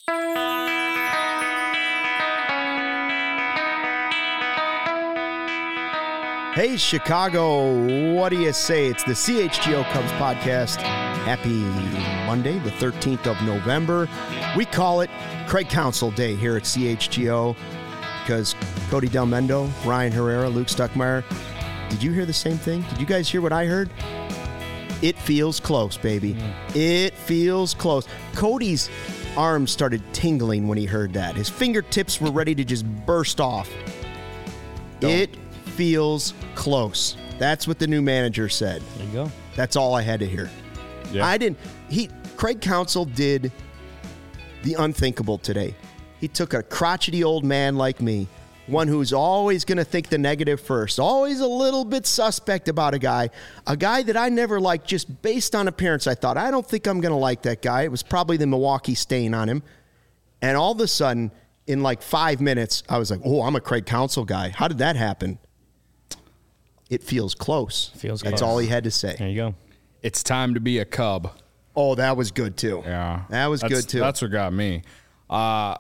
Hey, Chicago, what do you say? It's the CHGO Cubs podcast. Happy Monday, the 13th of November. We call it Craig Counsell Day here at CHGO because Cody Delmendo, Ryan Herrera, Luke Stuckmeyer. Did you hear the same thing? Did you guys hear what I heard? It feels close, baby. It feels close. Cody's arms started tingling when he heard that. His fingertips were ready to just burst off. It feels close. That's what the new manager said. There you go. That's all I had to hear. Yeah. Craig Counsell did the unthinkable today. He took a crotchety old man like me, one who's always going to think the negative first, always a little bit suspect about a guy that I never liked just based on appearance. I thought, I don't think I'm going to like that guy. It was probably the Milwaukee stain on him. And all of a sudden, in like 5 minutes, I was like, oh, I'm a Craig Counsell guy. How did that happen? It feels close. That's all he had to say. There you go. It's time to be a Cub. Oh, that was good too. Yeah. That was good too. That's what got me. My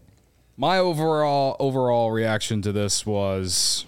overall reaction to this was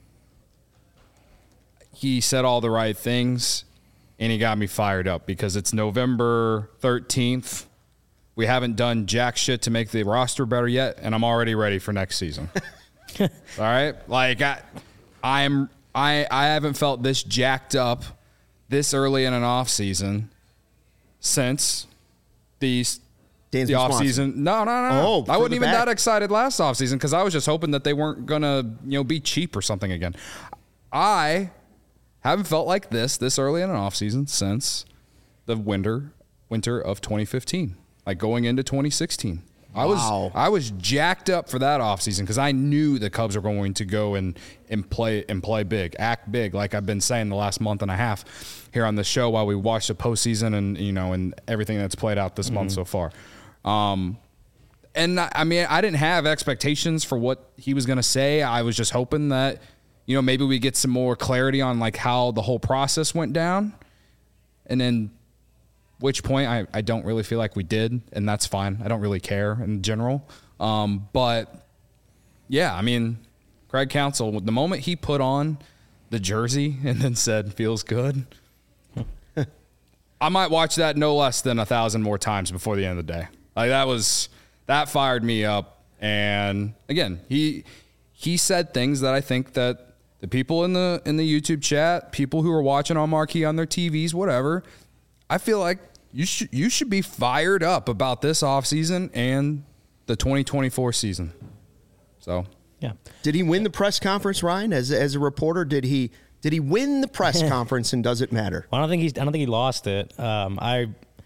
he said all the right things and he got me fired up because it's November 13th. We haven't done jack shit to make the roster better yet, and I'm already ready for next season. All right? Like I haven't felt this jacked up this early in an off season since the off season. No. Oh, I wasn't even that excited last off season because I was just hoping that they weren't gonna be cheap or something again. I haven't felt like this early in an off season since the winter of 2015, like going into 2016. Wow. I was jacked up for that offseason because I knew the Cubs were going to go and play big, act big, like I've been saying the last month and a half here on the show while we watch the postseason and everything that's played out this month so far. And I mean, I didn't have expectations for what he was going to say. I was just hoping that maybe we get some more clarity on like how the whole process went down, and then. Which point I don't really feel like we did, and that's fine. I don't really care in general. But, yeah, I mean, Craig Counsell, the moment he put on the jersey and then said, feels good, I might watch that no less than 1,000 more times before the end of the day. Like that fired me up. And, again, he said things that I think that the people in the YouTube chat, people who are watching on Marquee on their TVs, whatever, I feel like you should be fired up about this offseason and the 2024 season. So, yeah. Did he win the press conference, Ryan? As a reporter, did he win the press conference, and does it matter? Well, I don't think he lost it. I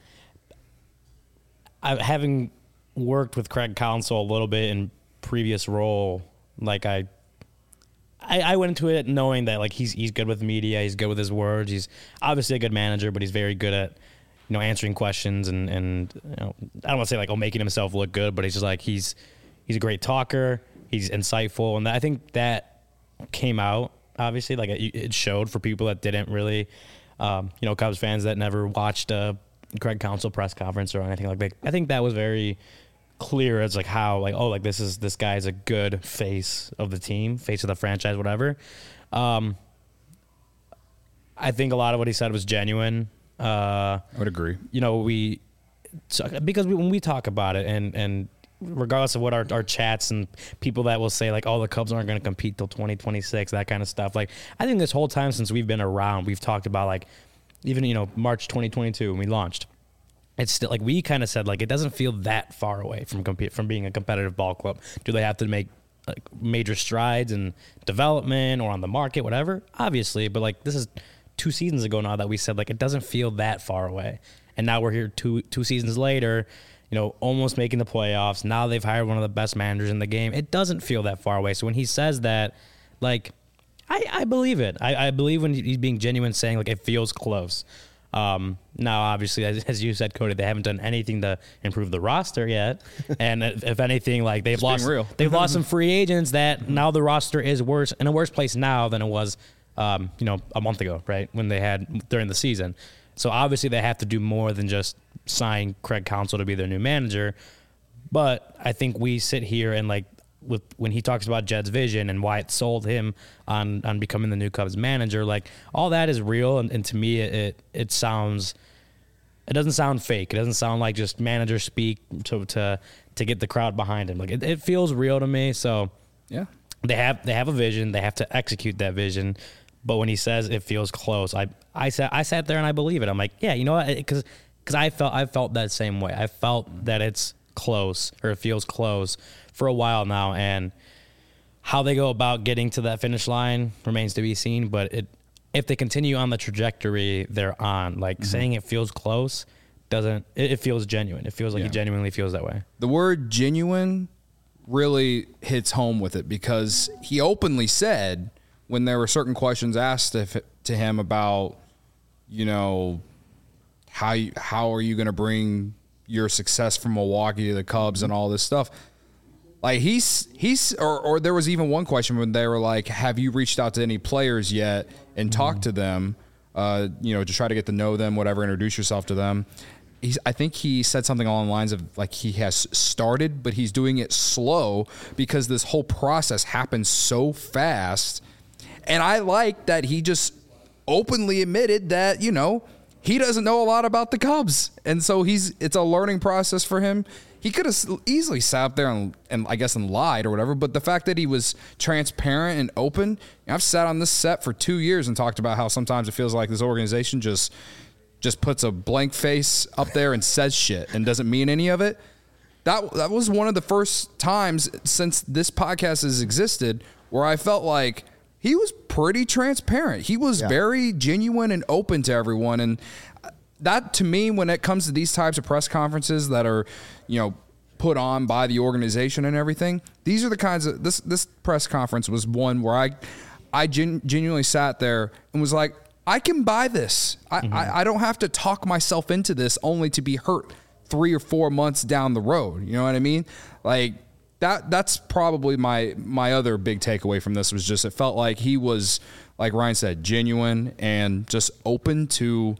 having worked with Craig Counsell a little bit in previous role, like I went into it knowing that like he's good with media, he's good with his words, he's obviously a good manager, but he's very good at answering questions and I don't want to say like making himself look good, but he's just like he's a great talker, he's insightful, and I think that came out obviously, like it showed for people that didn't really Cubs fans that never watched a Craig Counsell press conference or anything like that. I think that was very clear as like how like this guy's a good face of the team, face of the franchise, whatever. I think a lot of what he said was genuine. I would agree. Because when we talk about it and regardless of what our chats and people that will say like, oh, the Cubs aren't going to compete till 2026, that kind of stuff. Like I think this whole time since we've been around, we've talked about like even March 2022 when we launched. It's still like we kind of said like it doesn't feel that far away from being a competitive ball club. Do they have to make like major strides in development or on the market, whatever? Obviously, but like this is 2 seasons ago now that we said like it doesn't feel that far away, and now we're here two seasons later, almost making the playoffs. Now they've hired one of the best managers in the game. It doesn't feel that far away. So when he says that, like I believe it. I believe when he's being genuine, saying like it feels close. Now, obviously, as you said, Cody, they haven't done anything to improve the roster yet. And if anything, like they've lost some free agents that now the roster is in a worse place now than it was, a month ago, right? When they had during the season. So obviously they have to do more than just sign Craig Counsell to be their new manager. But I think we sit here and like when he talks about Jed's vision and why it sold him on becoming the new Cubs manager, like all that is real. And to me, it doesn't sound fake. It doesn't sound like just manager speak to get the crowd behind him. Like it feels real to me. So yeah, they have a vision. They have to execute that vision. But when he says it feels close, I sat there and I believe it. I'm like, yeah, you know what? Because I felt that same way. I felt that it's close, or it feels close for a while now, and how they go about getting to that finish line remains to be seen. But if they continue on the trajectory they're on, like saying it feels close it feels genuine. It feels like he genuinely feels that way. The word genuine really hits home with it, because he openly said when there were certain questions asked to him about, you know, how are you going to bring your success from Milwaukee to the Cubs and all this stuff. Like or there was even one question when they were like, have you reached out to any players yet and talked to them, you know, to try to get to know them, whatever, introduce yourself to them. I think he said something along the lines of like he has started, but he's doing it slow because this whole process happens so fast. And I like that he just openly admitted that, you know, he doesn't know a lot about the Cubs. And so it's a learning process for him. He could have easily sat up there and I guess and lied or whatever, but the fact that he was transparent and open, I've sat on this set for 2 years and talked about how sometimes it feels like this organization just puts a blank face up there and says shit and doesn't mean any of it. That was one of the first times since this podcast has existed where I felt like he was pretty transparent. He was very genuine and open to everyone. And that, to me, when it comes to these types of press conferences that are, you know, put on by the organization and everything, these are the kinds of this press conference was one where I genuinely sat there and was like, I can buy this. I don't have to talk myself into this only to be hurt 3 or 4 months down the road. You know what I mean? Like that's probably my other big takeaway from this was just it felt like he was, like Ryan said, genuine and just open to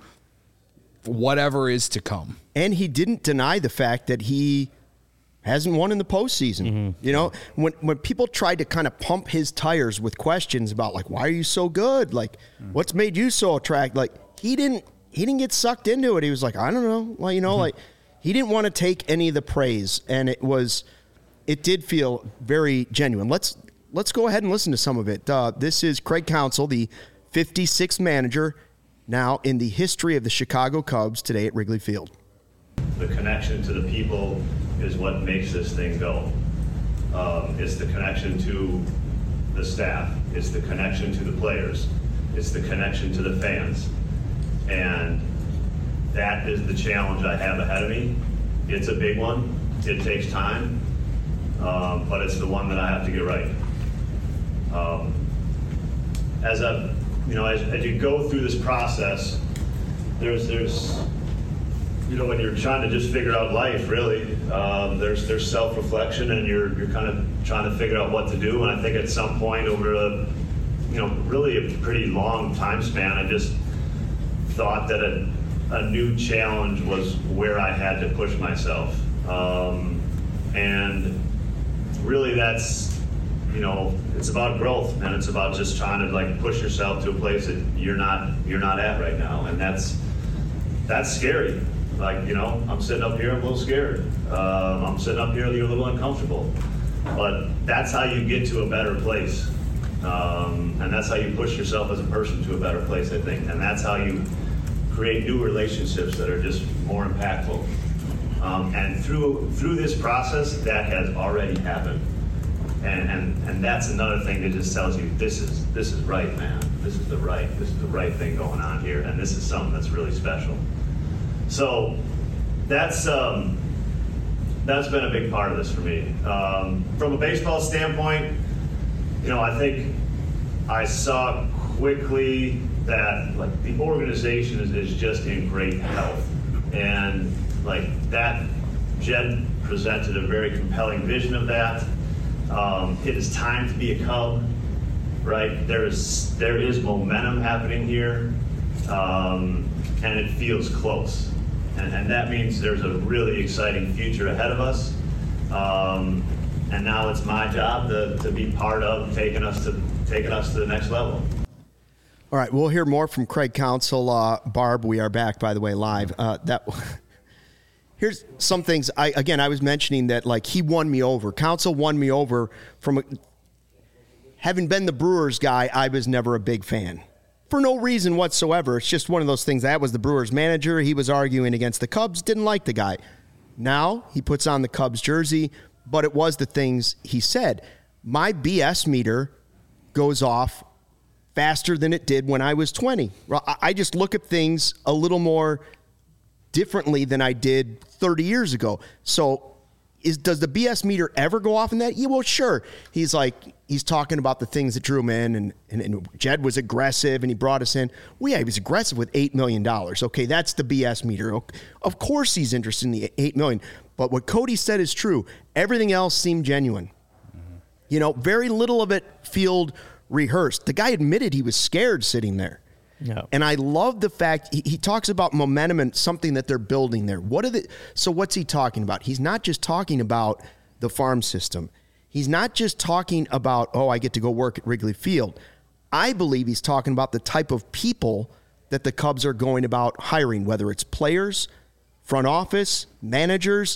whatever is to come. And he didn't deny the fact that he hasn't won in the postseason. You know, when people tried to kind of pump his tires with questions about like, why are you so good? Like, what's made you so attractive? Like, he didn't get sucked into it. He was like, I don't know. Well, you know, like he didn't want to take any of the praise, and it did feel very genuine. Let's go ahead and listen to some of it. This is Craig Counsell, the 56th manager now in the history of the Chicago Cubs, today at Wrigley Field. The connection to the people is what makes this thing go. It's the connection to the staff. It's the connection to the players. It's the connection to the fans. And that is the challenge I have ahead of me. It's a big one. It takes time, but it's the one that I have to get right. As you go through this process, there's you know, when you're trying to just figure out life, really, there's self-reflection, and you're kind of trying to figure out what to do. And I think at some point over really a pretty long time span, I just thought that a new challenge was where I had to push myself. And really that's, you know, it's about growth, and it's about just trying to like push yourself to a place that you're not at right now. And that's scary. Like, you know, I'm sitting up here, I'm a little scared. I'm sitting up here, you're a little uncomfortable. But that's how you get to a better place. And that's how you push yourself as a person to a better place, I think. And that's how you create new relationships that are just more impactful. And through this process, that has already happened. And that's another thing that just tells you this is right, man. This is the right thing going on here, and this is something that's really special. So that's been a big part of this for me. From a baseball standpoint, you know, I think I saw quickly that like the organization is just in great health, and like that, Jed presented a very compelling vision of that. It is time to be a Cub, right? There is momentum happening here, and it feels close. And that means there's a really exciting future ahead of us. And now it's my job to be part of taking us to the next level. All right, we'll hear more from Craig Counsell. Barb, we are back, by the way, live. Here's some things. I was mentioning that, like, he won me over. Counsell won me over from having been the Brewers guy. I was never a big fan for no reason whatsoever. It's just one of those things. That was the Brewers manager. He was arguing against the Cubs. Didn't like the guy. Now he puts on the Cubs jersey, but it was the things he said. My BS meter goes off faster than it did when I was 20. I just look at things a little more differently than I did 30 years ago. So does the BS meter ever go off in that? Yeah, well, sure. He's talking about the things that drew him in, and Jed was aggressive, and he brought us in. Well, yeah, he was aggressive with $8 million. Okay, that's the BS meter. Of course he's interested in the $8 million. But what Cody said is true. Everything else seemed genuine. Mm-hmm. Very little of it felt rehearsed. The guy admitted he was scared sitting there. No. And I love the fact he talks about momentum and something that they're building there. So what's he talking about? He's not just talking about the farm system. He's not just talking about, I get to go work at Wrigley Field. I believe he's talking about the type of people that the Cubs are going about hiring, whether it's players, front office, managers.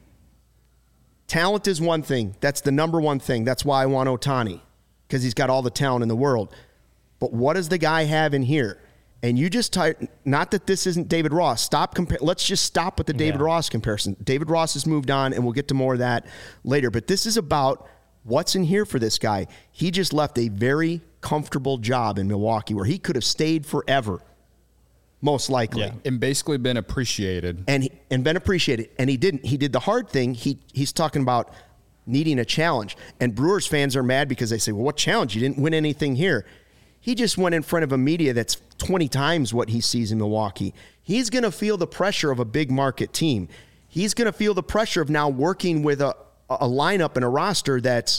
Talent is one thing. That's the number one thing. That's why I want Ohtani, because he's got all the talent in the world. But what does the guy have in here? And you just not that this isn't David Ross. Let's just stop with the David Ross comparison. David Ross has moved on, and we'll get to more of that later. But this is about what's in here for this guy. He just left a very comfortable job in Milwaukee where he could have stayed forever, most likely. Yeah. And basically been appreciated. And been appreciated. And he didn't. He did the hard thing. He's talking about needing a challenge. And Brewers fans are mad because they say, well, what challenge? You didn't win anything here. He just went in front of a media that's 20 times what he sees in Milwaukee. He's going to feel the pressure of a big market team. He's going to feel the pressure of now working with a lineup and a roster that's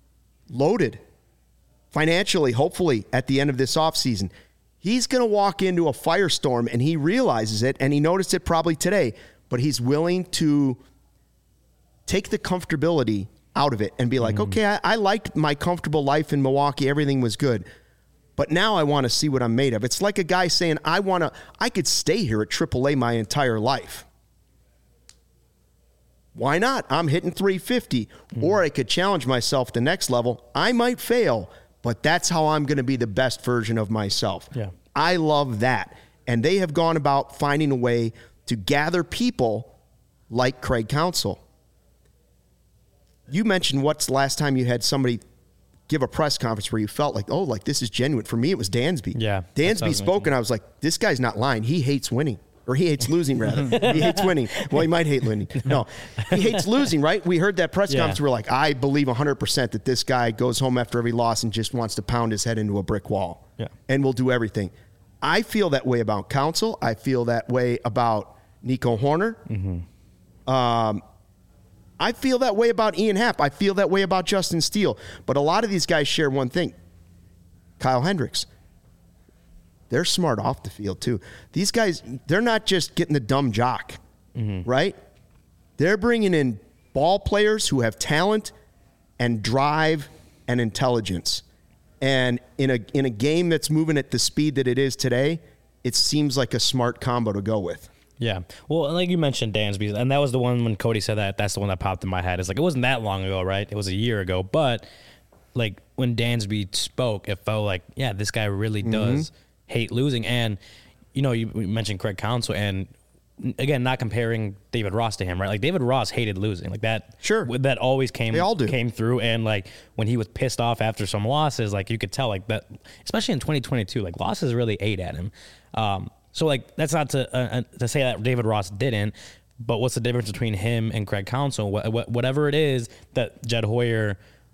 loaded financially, hopefully, at the end of this offseason. He's going to walk into a firestorm, and he realizes it, and he noticed it probably today, but he's willing to take the comfortability out of it and be like, okay, I liked my comfortable life in Milwaukee. Everything was good. But now I want to see what I'm made of. It's like a guy saying, I could stay here at AAA my entire life. Why not? I'm hitting 350. Or I could challenge myself the next level. I might fail, but that's how I'm going to be the best version of myself. Yeah. I love that. And they have gone about finding a way to gather people like Craig Counsell. You mentioned what's the last time you had somebody give a press conference where you felt like, this is genuine. For me, it was Dansby. Yeah. Dansby spoke, and I was like, this guy's not lying. He hates winning. Or he hates losing, rather. He hates winning. Well, he might hate winning. No, he hates losing, right? We heard that press conference. We're like, I believe 100% that this guy goes home after every loss and just wants to pound his head into a brick wall. Yeah. And will do everything. I feel that way about Counsell. I feel that way about Nico Hoerner. Mm-hmm. I feel that way about Ian Happ. I feel that way about Justin Steele. But a lot of these guys share one thing. Kyle Hendricks. They're smart off the field, too. These guys, they're not just getting the dumb jock, right? They're bringing in ball players who have talent and drive and intelligence. And in a game that's moving at the speed that it is today, it seems like a smart combo to go with. Yeah. Well, like you mentioned, Dansby, and that was the one when Cody said that. That's the one that popped in my head. It's like, it wasn't that long ago, right? It was a year ago. But, like, when Dansby spoke, it felt like, yeah, this guy really does hate losing. And, you mentioned Craig Counsell, and, again, not comparing David Ross to him, right? Like, David Ross hated losing. Like, that that always came through. And, like, when he was pissed off after some losses, like, you could tell, like, that, especially in 2022, like, losses really ate at him. So, like, that's not to say that David Ross didn't, but what's the difference between him and Craig Counsell? Whatever it is that Jed Hoyer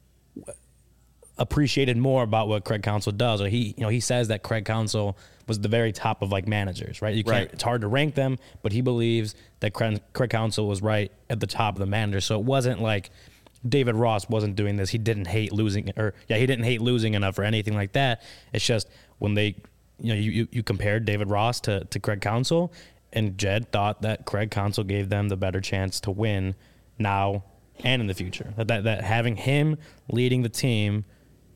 appreciated more about what Craig Counsell does, or he says that Craig Counsell was the very top of, like, managers, right? It's hard to rank them, but he believes that Craig Counsell was right at the top of the managers. So it wasn't like David Ross wasn't doing this. He didn't hate losing, he didn't hate losing enough or anything like that. It's just when they, you compared David Ross to Craig Counsell, and Jed thought that Craig Counsell gave them the better chance to win now and in the future. That having him leading the team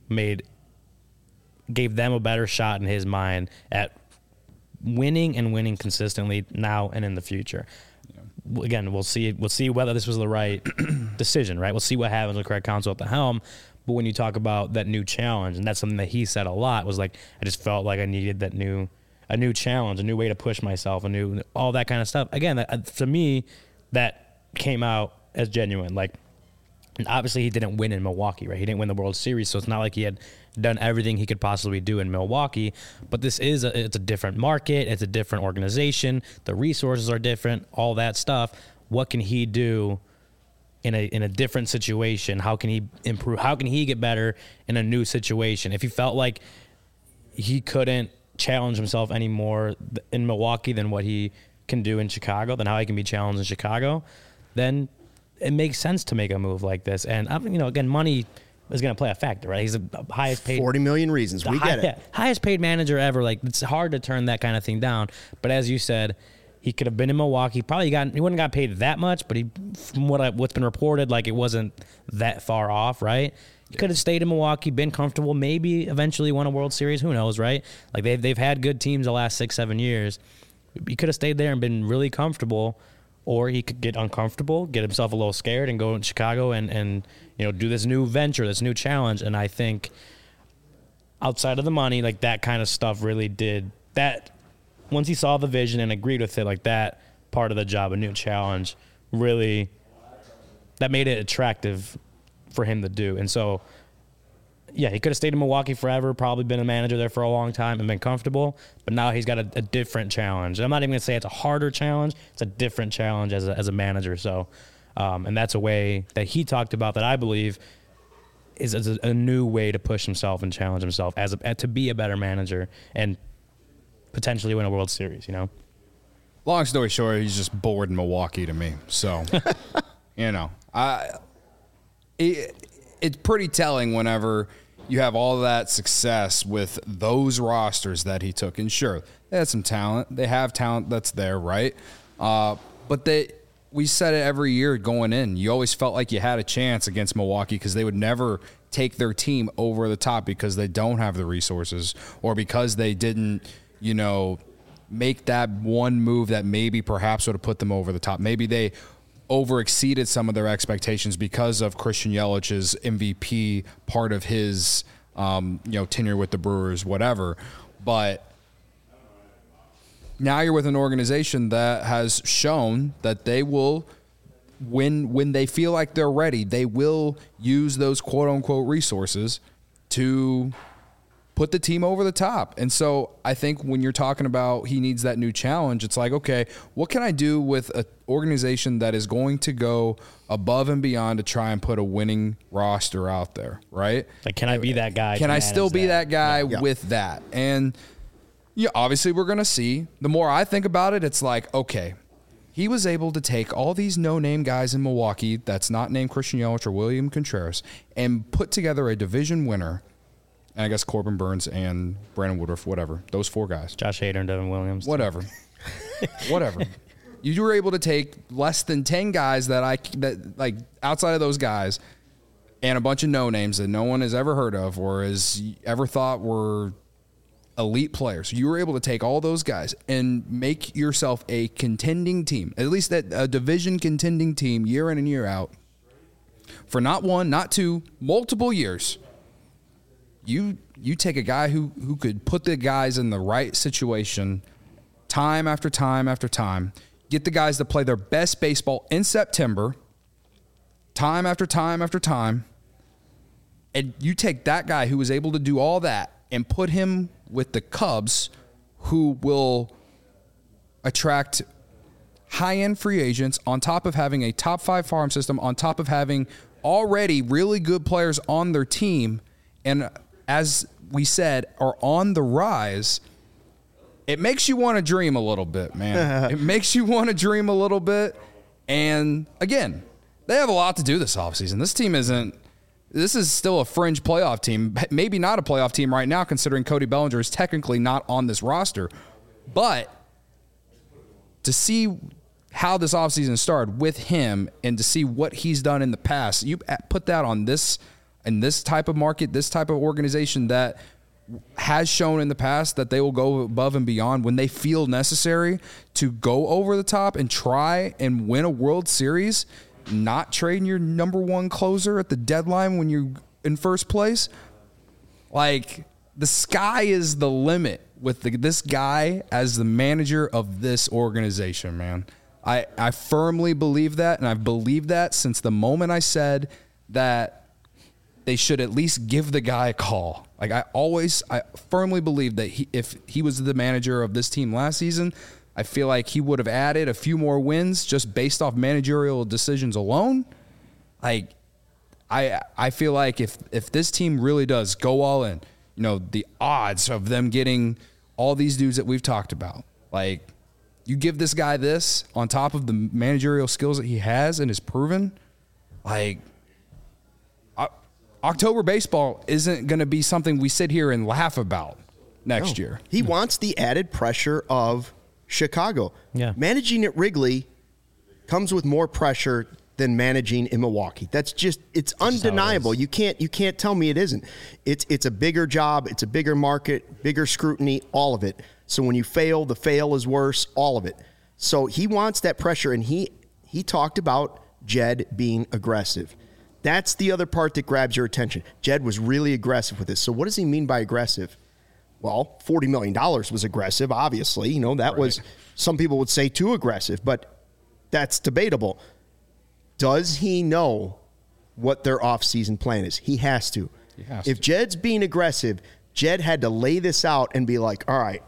gave them a better shot in his mind at winning and winning consistently now and in the future. Yeah. Again, we'll see whether this was the right decision, right? We'll see what happens with Craig Counsell at the helm. But when you talk about that new challenge, and that's something that he said a lot, was like, I just felt like I needed a new challenge, a new way to push myself, all that kind of stuff. Again, to me, that came out as genuine. Like, and obviously he didn't win in Milwaukee, right? He didn't win the World Series, so it's not like he had done everything he could possibly do in Milwaukee. But this is it's a different market, it's a different organization, the resources are different, all that stuff. What can he do in a different situation? How can he improve? How can he get better in a new situation? If he felt like he couldn't challenge himself anymore in Milwaukee than what he can do in Chicago, then how he can be challenged in Chicago, then it makes sense to make a move like this. And, again, money is going to play a factor, right? He's the highest paid. 40 million reasons. We get it. Yeah, highest paid manager ever. Like, it's hard to turn that kind of thing down. But as you said, he could have been in Milwaukee. He wouldn't have got paid that much, but from what's been reported, like, it wasn't that far off, right? He could have stayed in Milwaukee, been comfortable, maybe eventually won a World Series. Who knows, right? Like, they've had good teams the last 6-7 years. He could have stayed there and been really comfortable. Or he could get uncomfortable, get himself a little scared, and go in Chicago and do this new venture, this new challenge. And I think outside of the money, like, that kind of stuff really did that. Once he saw the vision and agreed with it, like, that part of the job, a new challenge, really, that made it attractive for him to do. And so, yeah, he could have stayed in Milwaukee forever, probably been a manager there for a long time and been comfortable, but now he's got a different challenge. And I'm not even going to say it's a harder challenge. It's a different challenge as a manager. So, and that's a way that he talked about that I believe is a new way to push himself and challenge himself to be a better manager and potentially win a World Series, Long story short, he's just bored in Milwaukee to me. So, it's pretty telling whenever you have all that success with those rosters that he took. And sure, they had some talent. They have talent that's there, right? But we said it every year going in. You always felt like you had a chance against Milwaukee because they would never take their team over the top because they don't have the resources or because they didn't, make that one move that maybe perhaps would have put them over the top. Maybe they overexceeded some of their expectations because of Christian Yelich's MVP part of his, tenure with the Brewers, whatever. But now you're with an organization that has shown that they will, when they feel like they're ready, they will use those quote unquote resources to put the team over the top. And so I think when you're talking about he needs that new challenge, it's like, okay, what can I do with an organization that is going to go above and beyond to try and put a winning roster out there, right? Like, can I be that guy? Can I still be that guy with that? And obviously we're going to see. The more I think about it, it's like, okay, he was able to take all these no-name guys in Milwaukee that's not named Christian Yelich or William Contreras and put together a division winner. And I guess Corbin Burns and Brandon Woodruff, whatever. Those four guys. Josh Hader and Devin Williams. Whatever. Whatever. You were able to take less than 10 guys that outside of those guys and a bunch of no-names that no one has ever heard of or has ever thought were elite players. You were able to take all those guys and make yourself a contending team, at least a division contending team year in and year out for not one, not two, multiple years. You take a guy who could put the guys in the right situation time after time after time, get the guys to play their best baseball in September, time after time after time, and you take that guy who was able to do all that and put him with the Cubs, who will attract high-end free agents on top of having a top 5 farm system, on top of having already really good players on their team, and as we said, are on the rise. It makes you want to dream a little bit, man. It makes you want to dream a little bit. And again, they have a lot to do this offseason. This is still a fringe playoff team. Maybe not a playoff team right now, considering Cody Bellinger is technically not on this roster. But to see how this offseason started with him and to see what he's done in the past. You put that on this type of market, this type of organization that has shown in the past that they will go above and beyond when they feel necessary to go over the top and try and win a World Series, not trading your number one closer at the deadline when you're in first place. Like, the sky is the limit with this guy as the manager of this organization, man. I firmly believe that, and I've believed that since the moment I said that they should at least give the guy a call. Like, I firmly believe that if he was the manager of this team last season, I feel like he would have added a few more wins just based off managerial decisions alone. Like, I feel like if this team really does go all in, you know, the odds of them getting all these dudes that we've talked about, like, you give this guy this on top of the managerial skills that he has and is proven, like, October baseball isn't going to be something we sit here and laugh about next year. He wants the added pressure of Chicago. Yeah. Managing at Wrigley comes with more pressure than managing in Milwaukee. It's undeniable. You can't tell me it isn't. It's a bigger job, it's a bigger market, bigger scrutiny, all of it. So when you fail, the fail is worse, all of it. So he wants that pressure, and he talked about Jed being aggressive. That's the other part that grabs your attention. Jed was really aggressive with this. So what does he mean by aggressive? Well, $40 million was aggressive, obviously. You know, that was, some people would say too aggressive, but that's debatable. Does he know what their offseason plan is? He has to. If Jed's being aggressive, Jed had to lay this out and be like, all right,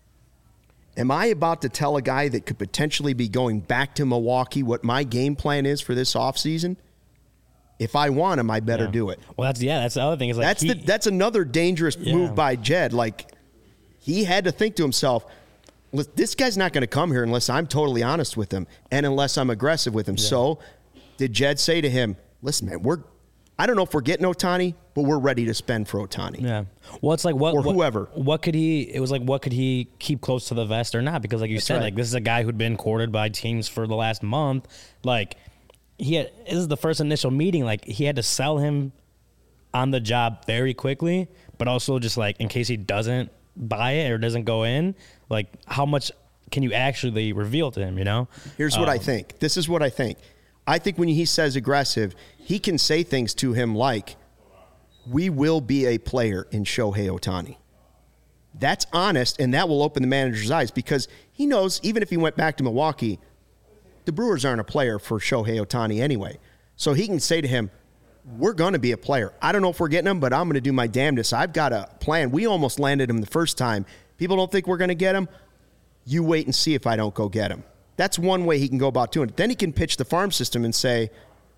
am I about to tell a guy that could potentially be going back to Milwaukee what my game plan is for this offseason? If I want him, I better do it. Well, that's the other thing. Is like that's another dangerous move by Jed. Like, he had to think to himself, this guy's not going to come here unless I'm totally honest with him and unless I'm aggressive with him. Yeah. So did Jed say to him, listen, man, I don't know if we're getting Ohtani, but we're ready to spend for Ohtani. Yeah. Well, it's like whoever. What could he keep close to the vest or not? Because like you said, like, this is a guy who'd been courted by teams for the last month. Like, this is the first initial meeting. Like, he had to sell him on the job very quickly, but also just like in case he doesn't buy it or doesn't go in, like, how much can you actually reveal to him, you know? Here's what I think. This is what I think. I think when he says aggressive, he can say things to him like, we will be a player in Shohei Ohtani. That's honest, and that will open the manager's eyes because he knows even if he went back to Milwaukee, the Brewers aren't a player for Shohei Ohtani anyway. So he can say to him, we're going to be a player. I don't know if we're getting him, but I'm going to do my damnedest. I've got a plan. We almost landed him the first time. People don't think we're going to get him. You wait and see if I don't go get him. That's one way he can go about doing it. Then he can pitch the farm system and say,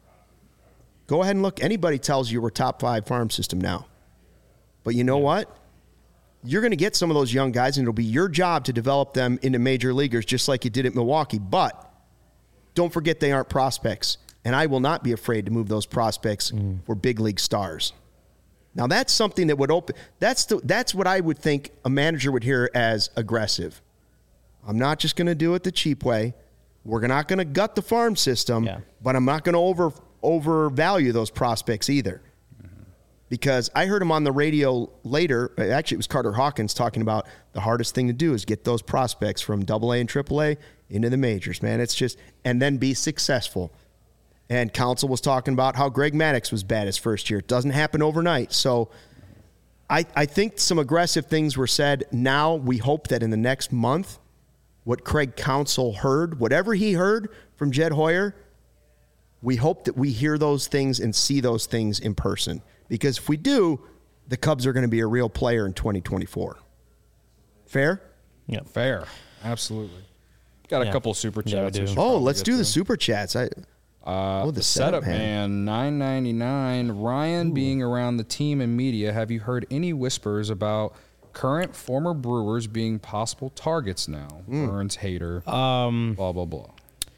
go ahead and look. Anybody tells you we're top 5 farm system now. But you know what? You're going to get some of those young guys, and it'll be your job to develop them into major leaguers just like you did at Milwaukee. But don't forget they aren't prospects, and I will not be afraid to move those prospects for big league stars. Now, that's something that would open – that's what I would think a manager would hear as aggressive. I'm not just going to do it the cheap way. We're not going to gut the farm system, but I'm not going to overvalue those prospects either. Because I heard him on the radio later. Actually, it was Carter Hawkins talking about the hardest thing to do is get those prospects from AA and AAA into the majors, man. It's just, and then be successful. And Counsell was talking about how Greg Maddux was bad his first year. It doesn't happen overnight. So I think some aggressive things were said. Now we hope that in the next month, what Craig Counsell heard, whatever he heard from Jed Hoyer, we hope that we hear those things and see those things in person. Because if we do, the Cubs are going to be a real player in 2024. Fair? Yeah. Fair. Absolutely. Got a couple super chats. Yeah, let's do the super chats. The setup man, $9.99. Ryan, being around the team and media, have you heard any whispers about current former Brewers being possible targets now? Burns, Hader, blah, blah, blah.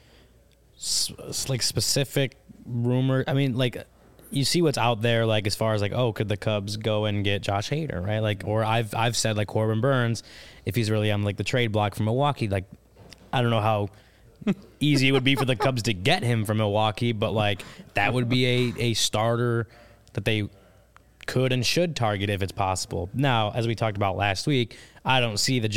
It's like specific rumor. I mean, like, you see what's out there, like, as far as, like, could the Cubs go and get Josh Hader, right? Like, or I've said, like, Corbin Burns, if he's really on, like, the trade block from Milwaukee, like, I don't know how easy it would be for the Cubs to get him from Milwaukee, but like that would be a starter that they could and should target if it's possible. Now, as we talked about last week, I don't see the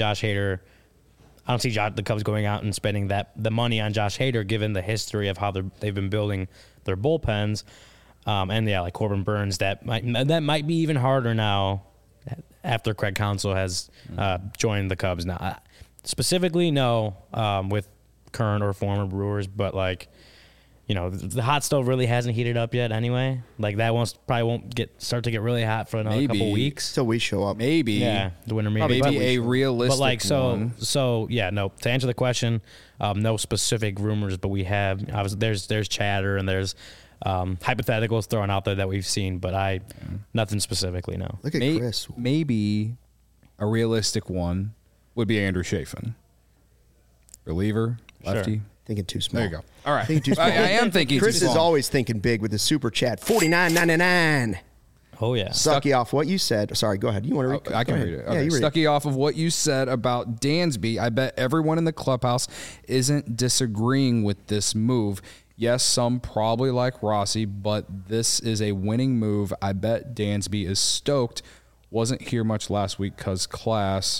Cubs going out and spending the money on Josh Hader, given the history of how they've been building their bullpens. And yeah, like Corbin Burns, that might be even harder now after Craig Counsell has joined the Cubs. Now, specifically, no, with current or former Brewers, but like, you know, the hot stove really hasn't heated up yet anyway. Like that probably won't start to get really hot for another couple weeks. So we show up. Maybe. Yeah, the winter meeting. Maybe a realistic but like one. So yeah, no. To answer the question, no specific rumors, but we have there's chatter and there's hypotheticals thrown out there that we've seen, but nothing specifically. No. Look at Chris. Maybe a realistic one would be Andrew Chafin, reliever, lefty. Sure. Thinking too small. There you go. All right. Thinking too small. I am thinking Chris too is small. always thinking big with the super chat. $49.99. Oh yeah. Stucky off what you said. Sorry, go ahead. You want to read? I can read it. Yeah, Okay. you read it. Stucky off of what you said about Dansby, I bet everyone in the clubhouse isn't disagreeing with this move. Yes, some probably like Rossi, but this is a winning move. I bet Dansby is stoked. Wasn't here much last week because class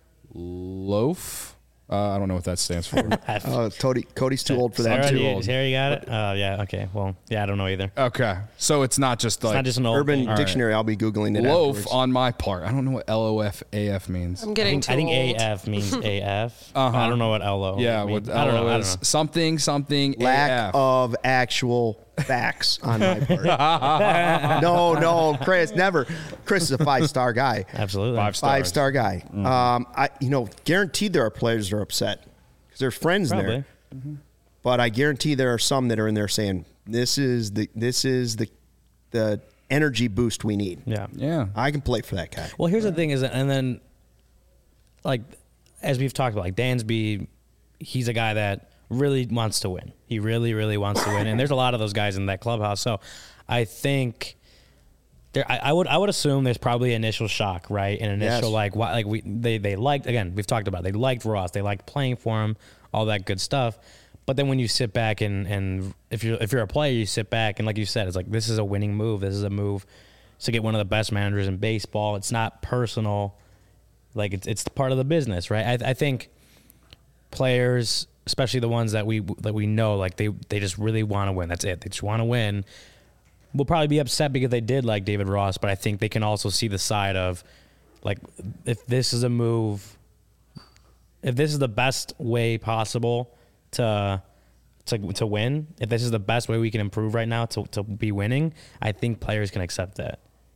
loaf. I don't know what that stands for. Cody's too old for that. Sarah, Too you, old. Sarah, you got it? Yeah, okay. Well, yeah, I don't know either. Okay. So it's not just like It's not just an old Urban thing. Dictionary. I'll be Googling it loaf afterwards. on my part. I don't know what LOFAF means. I'm getting too I think old. AF means AF. I don't know what LO Yeah, means. what I don't know. LO is something Lack AF. of actual facts on my part. No, Chris, never. Chris is a 5-star guy. Absolutely. 5 stars. 5-star guy. Guaranteed there are players that are upset because there's friends Probably. there. But I guarantee there are some that are in there saying this is the energy boost we need. Yeah. Yeah. I can play for that guy. Well, here's the thing is, and then, like, as we've talked about, like Dansby, he's a guy that really wants to win. He really, really wants to win, and there's a lot of those guys in that clubhouse. So, I think I would assume there's probably initial shock, right? An initial they liked, again, we've talked about it, they liked Ross, they liked playing for him, all that good stuff. But then when you sit back and if you're a player, you sit back and like you said, it's like this is a winning move. This is a move to get one of the best managers in baseball. It's not personal, like it's part of the business, right? I think players, especially the ones that we know, like they just really want to win. That's it. They just want to win. Will probably be upset because they did like David Ross, but I think they can also see the side of like if this is a move, if this is the best way possible to win, if this is the best way we can improve right now to be winning, I think players can accept that.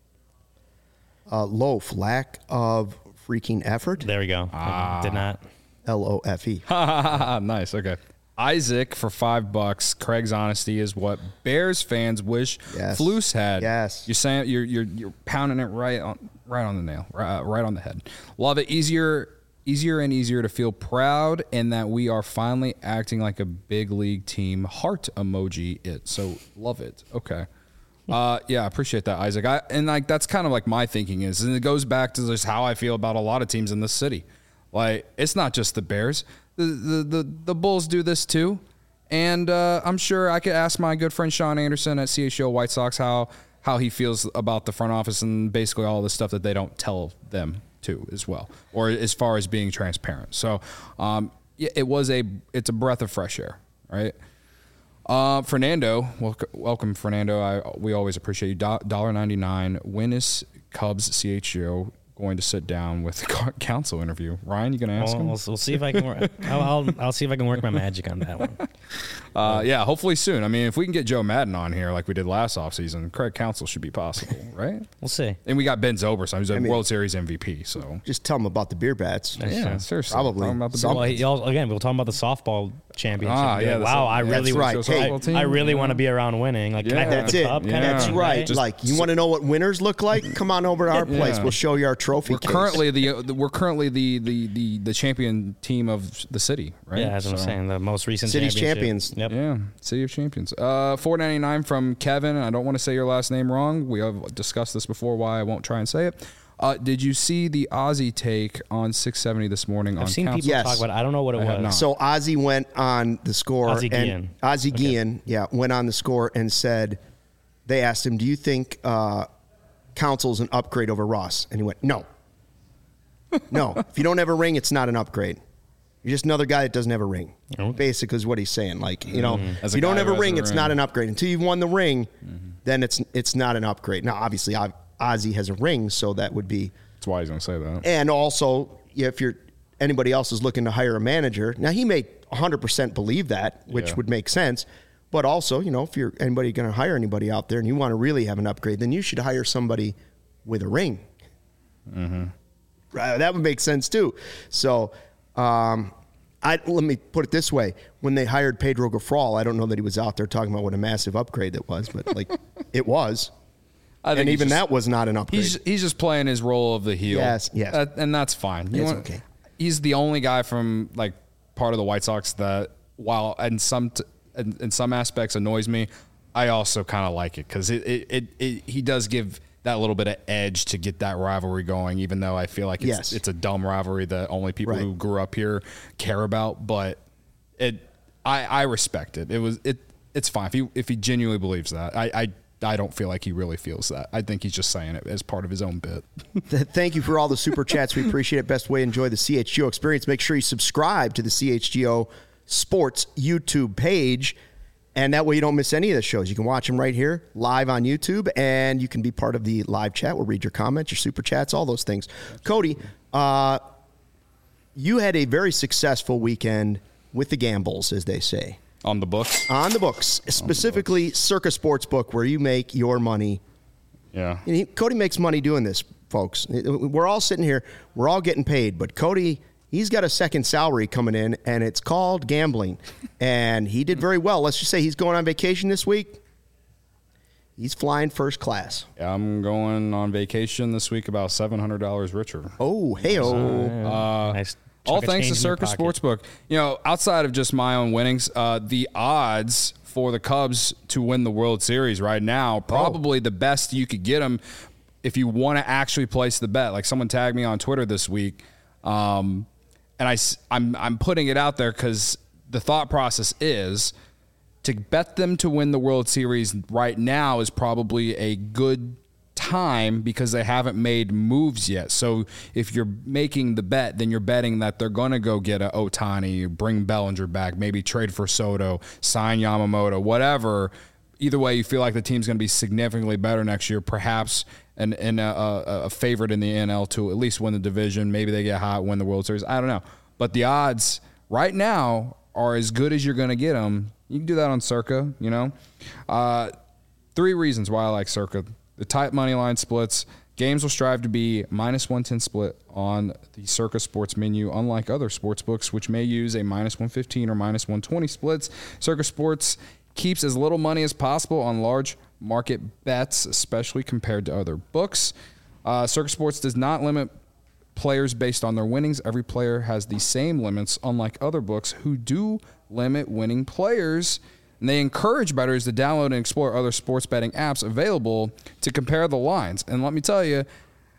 Loaf, lack of freaking effort. There we go. I did not. LOFE. Nice. Okay. Isaac for $5. Craig's honesty is what Bears fans wish Yes. Flus had. Yes. You're saying you're pounding it right on the nail, right on the head. Love it. Easier and easier to feel proud and that we are finally acting like a big league team. Heart emoji it. So love it. Okay. Yeah, I appreciate that, Isaac. That's kind of like my thinking is, and it goes back to just how I feel about a lot of teams in this city. Like, it's not just the Bears. The Bulls do this too. And I'm sure I could ask my good friend Sean Anderson at CHO White Sox how he feels about the front office and basically all the stuff that they don't tell them too as well, or as far as being transparent. So it's a breath of fresh air, right? Fernando, welcome Fernando. We always appreciate you. $1.99. When is Cubs CHO going to sit down with the council interview? Ryan, you gonna ask him? We'll see if I can work. I'll see if I can work my magic on that one. Yeah, hopefully soon. I mean, if we can get Joe Madden on here like we did last offseason, Craig Counsell should be possible, right? We'll see. And we got Ben Zobrist. He's a World Series MVP. So Just tell them about the beer bats. yeah, seriously, Probably. Talking about the Some- Well, again, we'll talk about the softball championship. yeah, Wow, I really, right. Hey, I really want to be around winning. Like, can I Yeah. hold That's the it. cup? Kind of That's thing, right. Just- Like, you want to know what winners look like? Come on over to our place. Yeah. We'll show you our trophy we're case. currently the champion team of the city, right? Yeah, that's what I'm So- saying. The most recent City's championship. champions. Yep. Yeah, City of Champions. $4.99 from Kevin. I don't want to say your last name wrong. We have discussed this before. Why I won't try and say it. Did you see the Ozzy take on 670 this morning? I've seen Council? people talk about it. I don't know what it have was. not. So Ozzy went on the score. Ozzy and Guillen. Ozzy Guillen, went on the score and said, they asked him, do you think Council's an upgrade over Ross? And he went, no. No. If you don't have a ring, it's not an upgrade. You're just another guy that doesn't have a ring. Okay. Basically is what he's saying. Like, you know, As if a you don't guy have who a has ring, a it's ring. not an upgrade. Until you've won the ring, then it's not an upgrade. Now, obviously, Ozzy has a ring, so that would be. That's why he's going to say that. And also, if anybody else is looking to hire a manager, now he may 100% believe that, which Yeah. would make sense. But also, you know, if you're anybody going to hire anybody out there and you want to really have an upgrade, then you should hire somebody with a ring. That would make sense too. So, let me put it this way: when they hired Pedro Gaffral, I don't know that he was out there talking about what a massive upgrade that was, but like it was. I think And he's even just- that was not an upgrade. He's just playing his role of the heel. Yes. And that's fine. It's okay. He's the only guy from like part of the White Sox that, while in some aspects annoys me, I also kind of like it because he does give that little bit of edge to get that rivalry going, even though I feel like it's a dumb rivalry that only people Right. who grew up here care about. But I respect it. It's fine if he genuinely believes that. I don't feel like he really feels that. I think he's just saying it as part of his own bit. Thank you for all the super chats. We appreciate it. Best way to enjoy the CHGO experience. Make sure you subscribe to the CHGO Sports YouTube page, and that way you don't miss any of the shows. You can watch them right here live on YouTube, and you can be part of the live chat. We'll read your comments, your super chats, all those things. Cody, you had a very successful weekend with the gambles, as they say. On the books? On the books, specifically Circa Sportsbook, where you make your money. Yeah. And Cody makes money doing this, folks. We're all sitting here. We're all getting paid. But Cody, he's got a second salary coming in, and it's called gambling. And he did very well. Let's just say he's going on vacation this week. He's flying first class. Yeah, I'm going on vacation this week about $700 richer. Oh, hey-oh. Nice. All Chunk of thanks to change in your Circa pocket. Sportsbook. You know, outside of just my own winnings, the odds for the Cubs to win the World Series right now, probably the best you could get them if you want to actually place the bet. Like someone tagged me on Twitter this week, and I'm putting it out there because the thought process is to bet them to win the World Series right now is probably a good time because they haven't made moves yet. So if you're making the bet, then you're betting that they're going to go get a Ohtani, bring Bellinger back, maybe trade for Soto, sign Yamamoto, whatever. Either way, you feel like the team's going to be significantly better next year, perhaps and a favorite in the NL to at least win the division. Maybe they get hot, win the World Series. I don't know. But the odds right now are as good as you're going to get them. You can do that on Circa, you know. 3 reasons why I like Circa. The tight money line splits. Games will strive to be -110 split on the Circa Sports menu, unlike other sports books, which may use a -115 or -120 splits. Circa Sports keeps as little money as possible on large market bets, especially compared to other books. Circa Sports does not limit players based on their winnings. Every player has the same limits, unlike other books who do limit winning players. And they encourage bettors to download and explore other sports betting apps available to compare the lines. And let me tell you,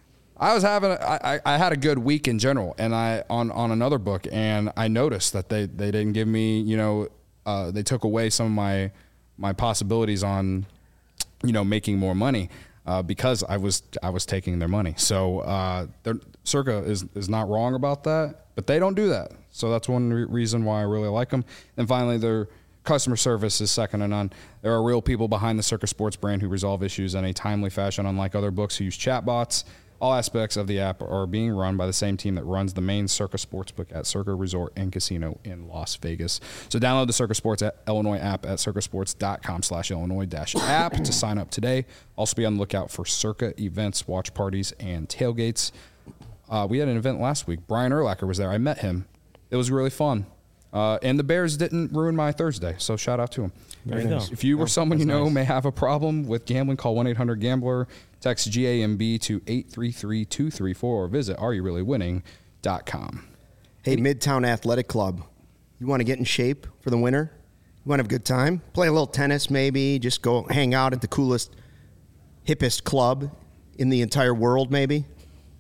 I had a good week in general, and on another book, and I noticed that they didn't give me, they took away some of my possibilities on, making more money because I was taking their money. So Circa is not wrong about that, but they don't do that. So that's one reason why I really like them. And finally, their customer service is second to none. There are real people behind the Circa Sports brand who resolve issues in a timely fashion, unlike other books who use chatbots. All aspects of the app are being run by the same team that runs the main Circa Sportsbook at Circa Resort and Casino in Las Vegas. So download the Circa Sports Illinois app at circasports.com/Illinois-app to sign up today. Also be on the lookout for Circa events, watch parties, and tailgates. We had an event last week. Brian Urlacher was there. I met him. It was really fun. And the Bears didn't ruin my Thursday, so shout out to him. There you go. If you or someone you know nice. may have a problem with gambling, call 1-800-GAMBLER, text GAMB to 833-234, or visit areyourreallywinning.com. Hey, Midtown Athletic Club, you want to get in shape for the winter? You want to have a good time? Play a little tennis maybe, just go hang out at the coolest, hippest club in the entire world maybe?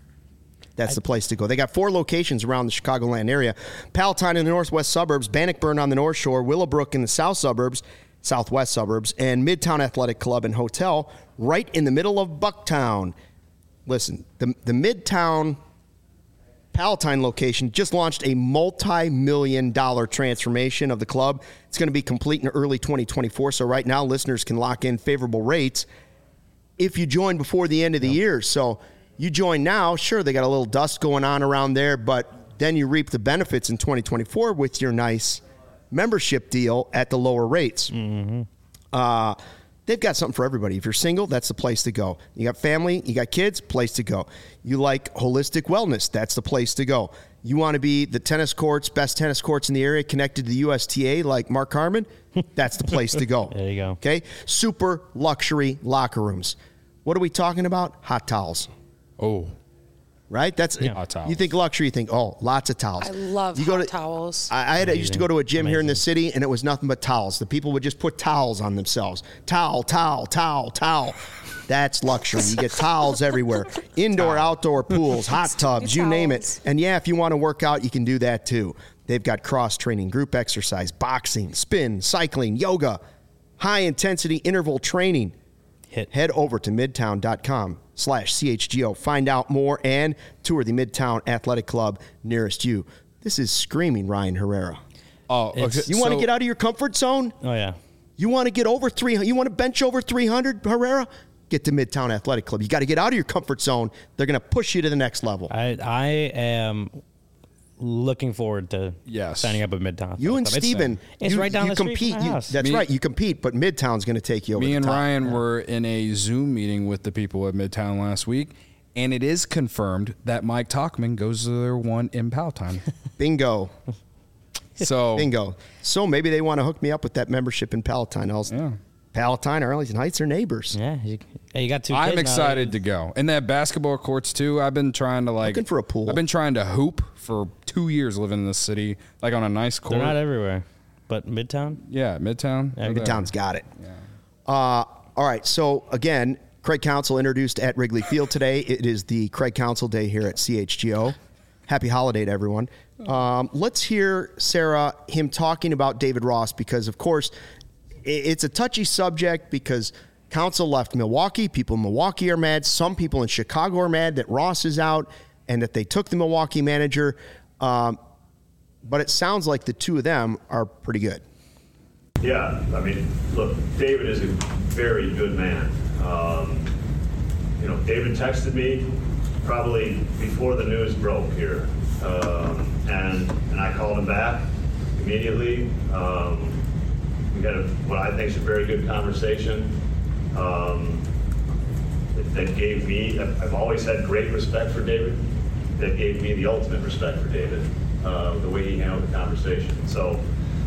That's the place to go. They got 4 locations around the Chicagoland area. Palatine in the northwest suburbs, Bannockburn on the north shore, Willowbrook in the southwest suburbs, and Midtown Athletic Club and Hotel right in the middle of Bucktown. Listen, the Midtown Palatine location just launched a multi-million-dollar transformation of the club. It's going to be complete in early 2024, so right now listeners can lock in favorable rates if you join before the end of the year. So you join now, sure, they got a little dust going on around there, but then you reap the benefits in 2024 with your nice membership deal at the lower rates. They've got something for everybody. If you're single, that's the place to go. You got family, you got kids, place to go. You like holistic wellness, that's the place to go. You want to be the tennis courts, best tennis courts in the area connected to the USTA like Mark Harmon, that's the place to go. There you go. Okay? Super luxury locker rooms. What are we talking about? Hot towels. Oh, Right? That's Hot towels. You think luxury, you think, oh, lots of towels. I love hot towels. I used to go to a gym here in the city, and it was nothing but towels. The people would just put towels on themselves. Towel. That's luxury. You get towels everywhere. Indoor, outdoor pools, hot tubs, you name it. And yeah, if you want to work out, you can do that too. They've got cross-training, group exercise, boxing, spin, cycling, yoga, high-intensity interval training. Head over to midtown.com/CHGO. Find out more and tour the Midtown Athletic Club nearest you. This is screaming Ryan Herrera. Oh, okay. You want to get out of your comfort zone? Oh, yeah. You want to get over 300? You want to bench over 300, Herrera? Get to Midtown Athletic Club. You got to get out of your comfort zone. They're going to push you to the next level. I am looking forward to signing up at Midtown. You and Steven, it's right down the street compete. from my house. That's right. You compete, but Midtown's going to take you over Me the and top. Ryan were in a Zoom meeting with the people at Midtown last week, and it is confirmed that Mike Talkman goes to their one in Palatine. Bingo. So Bingo. So maybe they want to hook me up with that membership in Palatine. Palatine, Arlington Heights are neighbors. Yeah, you got 2 kids I'm now. excited to go. And that basketball courts too. I've been trying to Looking for a pool. I've been trying to hoop for 2 years living in this city, like on a nice court. They're not everywhere, but Midtown. Yeah, Midtown. Yeah, Midtown's got it. All right. So again, Craig Counsell introduced at Wrigley Field today. It is the Craig Counsell Day here at CHGO. Happy holiday to everyone. Let's hear, Sarah, him talking about David Ross because, of course, it's a touchy subject because Counsell left Milwaukee. People in Milwaukee are mad. Some people in Chicago are mad that Ross is out and that they took the Milwaukee manager. But it sounds like the two of them are pretty good. Yeah, I mean, look, David is a very good man. David texted me probably before the news broke here, and I called him back immediately. We had what I think is a very good conversation that gave me, I've always had great respect for David, that gave me the ultimate respect for David, the way he handled the conversation. So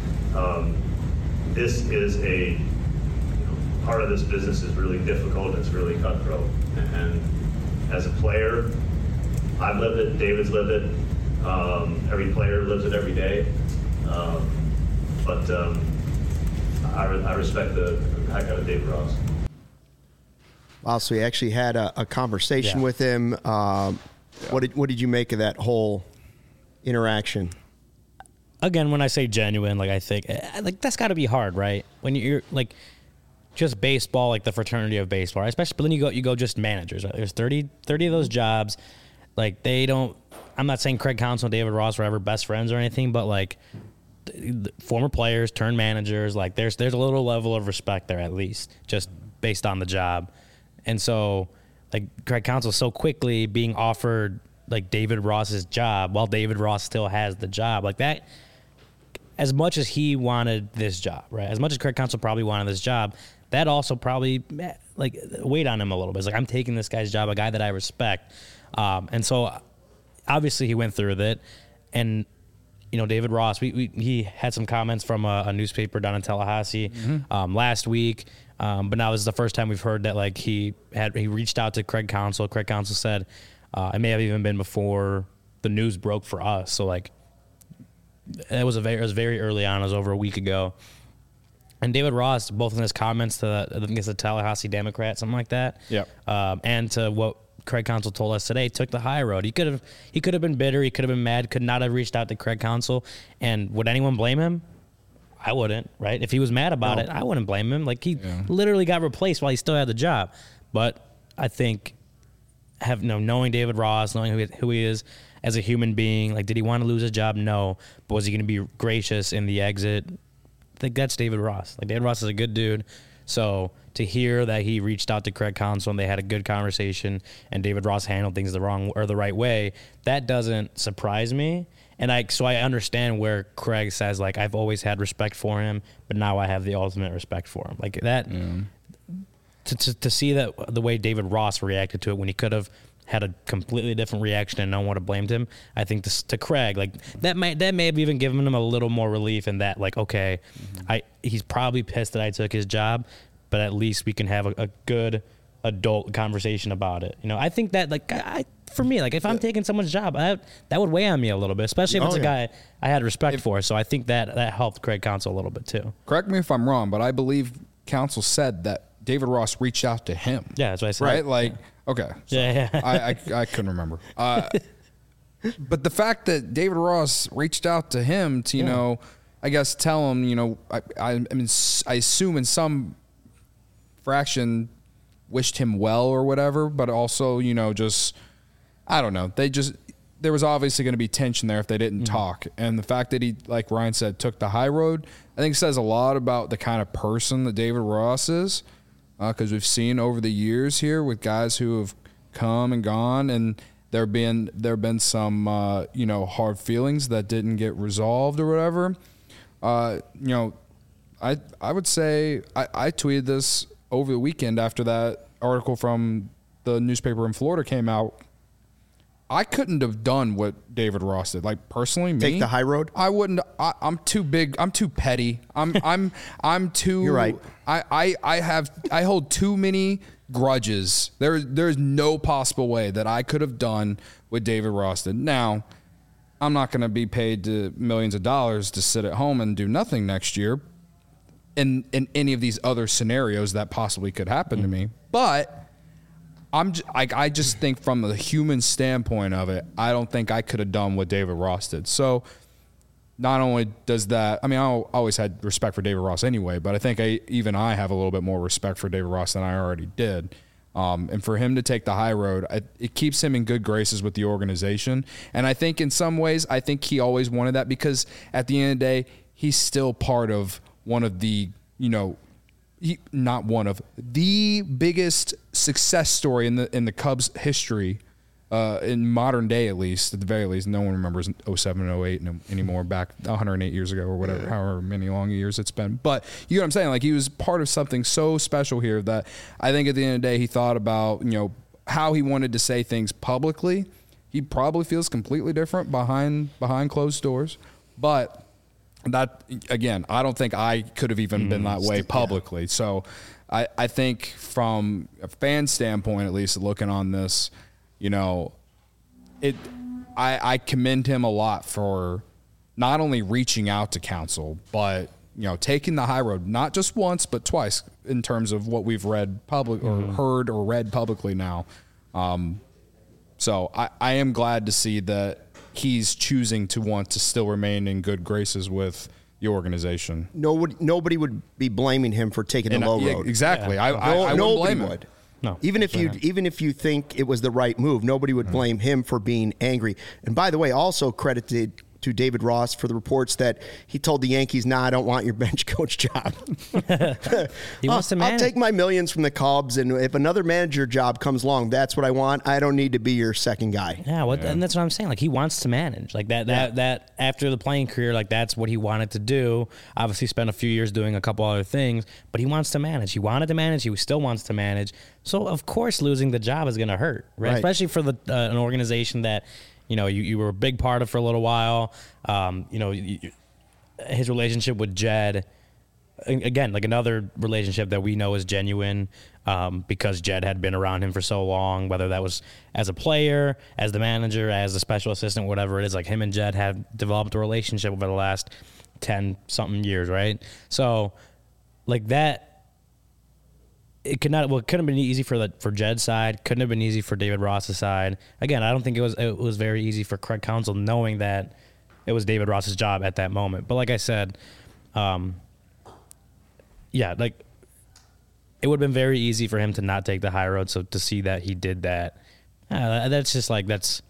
this is part of this business is really difficult, it's really cutthroat. And as a player, I've lived it, David's lived it, every player lives it every day. But I respect the heck out of David Ross. Wow, so he actually had a conversation with him. What did you make of that whole interaction? Again, when I say genuine, I think that's got to be hard, right? When you're just baseball, like the fraternity of baseball, right? Especially, but then you go just managers. Right? There's 30 of those jobs. They don't. I'm not saying Craig Counsell and David Ross were ever best friends or anything, but former players turned managers. There's a little level of respect there at least, just based on the job. And so, Craig Counsell so quickly being offered David Ross's job while David Ross still has the job that. As much as he wanted this job, right? As much as Craig Counsell probably wanted this job, that also probably weighed on him a little bit. It's I'm taking this guy's job, a guy that I respect. And so obviously he went through with it. And, David Ross, he had some comments from a newspaper down in Tallahassee last week. But now this is the first time we've heard that he reached out to Craig Counsell. Craig Counsell said it may have even been before the news broke for us. So it was very early on. It was over a week ago. And David Ross, both in his comments to I think it's the Tallahassee Democrat, something like that. Yep. And to what Craig Counsell told us today, took the high road. He could have been bitter. He could have been mad. Could not have reached out to Craig Counsell. And would anyone blame him? I wouldn't, right? If he was mad about it, I wouldn't blame him. Like, he literally got replaced while he still had the job. But I think knowing David Ross, knowing who he is as a human being, like, did he want to lose his job? No. But was he going to be gracious in the exit? I think that's David Ross. Like, David Ross is a good dude. So to hear that he reached out to Craig Counsell and they had a good conversation and David Ross handled things the right way, that doesn't surprise me. And so I understand where Craig says, like, I've always had respect for him, but now I have the ultimate respect for him. Like that, to see that the way David Ross reacted to it when he could have had a completely different reaction and no one would have blamed him. I think to Craig, like that may have even given him a little more relief in that, like, okay, he's probably pissed that I took his job, but at least we can have a good adult conversation about it. You know, I think that, like, for me, like, if I'm taking someone's job, that would weigh on me a little bit, especially if it's a guy I had respect for. So I think that helped Craig Counsell a little bit too. Correct me if I'm wrong, but I believe Counsell said that David Ross reached out to him. Yeah, that's what I said. Right? Like, okay. So yeah. I couldn't remember. But the fact that David Ross reached out to him to, you know, I guess tell him, you know, I mean, I assume in some fraction wished him well or whatever, but also, you know, just, I don't know. There was obviously going to be tension there if they didn't talk. And the fact that he, like Ryan said, took the high road, I think says a lot about the kind of person that David Ross is. Because we've seen over the years here with guys who have come and gone, and there have been some you know, hard feelings that didn't get resolved or whatever. You know, I would say I tweeted this over the weekend after that article from the newspaper in Florida came out. I couldn't have done what David Ross did. Like, personally, me, take the high road. I wouldn't. I'm too big. I'm too petty. I'm too. You're right. I hold too many grudges. There's no possible way that I could have done what David Ross did. Now, I'm not going to be paid millions of dollars to sit at home and do nothing next year in any of these other scenarios that possibly could happen to me. But I just think from the human standpoint of it, I don't think I could have done what David Ross did. So not only does that, I mean, I always had respect for David Ross anyway, but I think I have a little bit more respect for David Ross than I already did. And for him to take the high road, it keeps him in good graces with the organization. And I think in some ways, I think he always wanted that, because at the end of the day, he's still part of one of the, you know, not one of the biggest success story in the Cubs history, in modern day, at least, at the very least. No one remembers 07 and 08 anymore, back 108 years ago or whatever, however many long years it's been. But you know what I'm saying? Like, he was part of something so special here that I think at the end of the day, he thought about, you know, how he wanted to say things publicly. He probably feels completely different behind closed doors, but that, again, I don't think I could have even been that way publicly. So I think from a fan standpoint, at least, looking on this, you know, I commend him a lot for not only reaching out to Counsell, but, you know, taking the high road, not just once, but twice in terms of what we've read public or heard or read publicly now. So I am glad to see that he's choosing to want to still remain in good graces with the organization. Nobody would be blaming him for taking the low road. Exactly. Yeah. I wouldn't blame him. No. Even if you think it was the right move, nobody would blame him for being angry. And by the way, also credited to David Ross for the reports that he told the Yankees, "Nah, I don't want your bench coach job. He wants to manage. I'll take my millions from the Cubs, and if another manager job comes along, that's what I want. I don't need to be your second guy." Yeah, and that's what I'm saying. Like, he wants to manage. Like that after the playing career, like, that's what he wanted to do. Obviously, spent a few years doing a couple other things, but he wants to manage. He wanted to manage. He still wants to manage. So of course, losing the job is going to hurt, right? Especially for an organization that, you know, you were a big part of for a little while. You know, his relationship with Jed, again, like another relationship that we know is genuine, because Jed had been around him for so long, whether that was as a player, as the manager, as a special assistant, whatever it is. Like, him and Jed have developed a relationship over the last 10-something years, right? So, like, that it couldn't have been easy for Jed's side. Couldn't have been easy for David Ross's side. Again, I don't think it was very easy for Craig Counsell knowing that it was David Ross's job at that moment. But like I said, like it would have been very easy for him to not take the high road. So to see that he did that, that's just like that's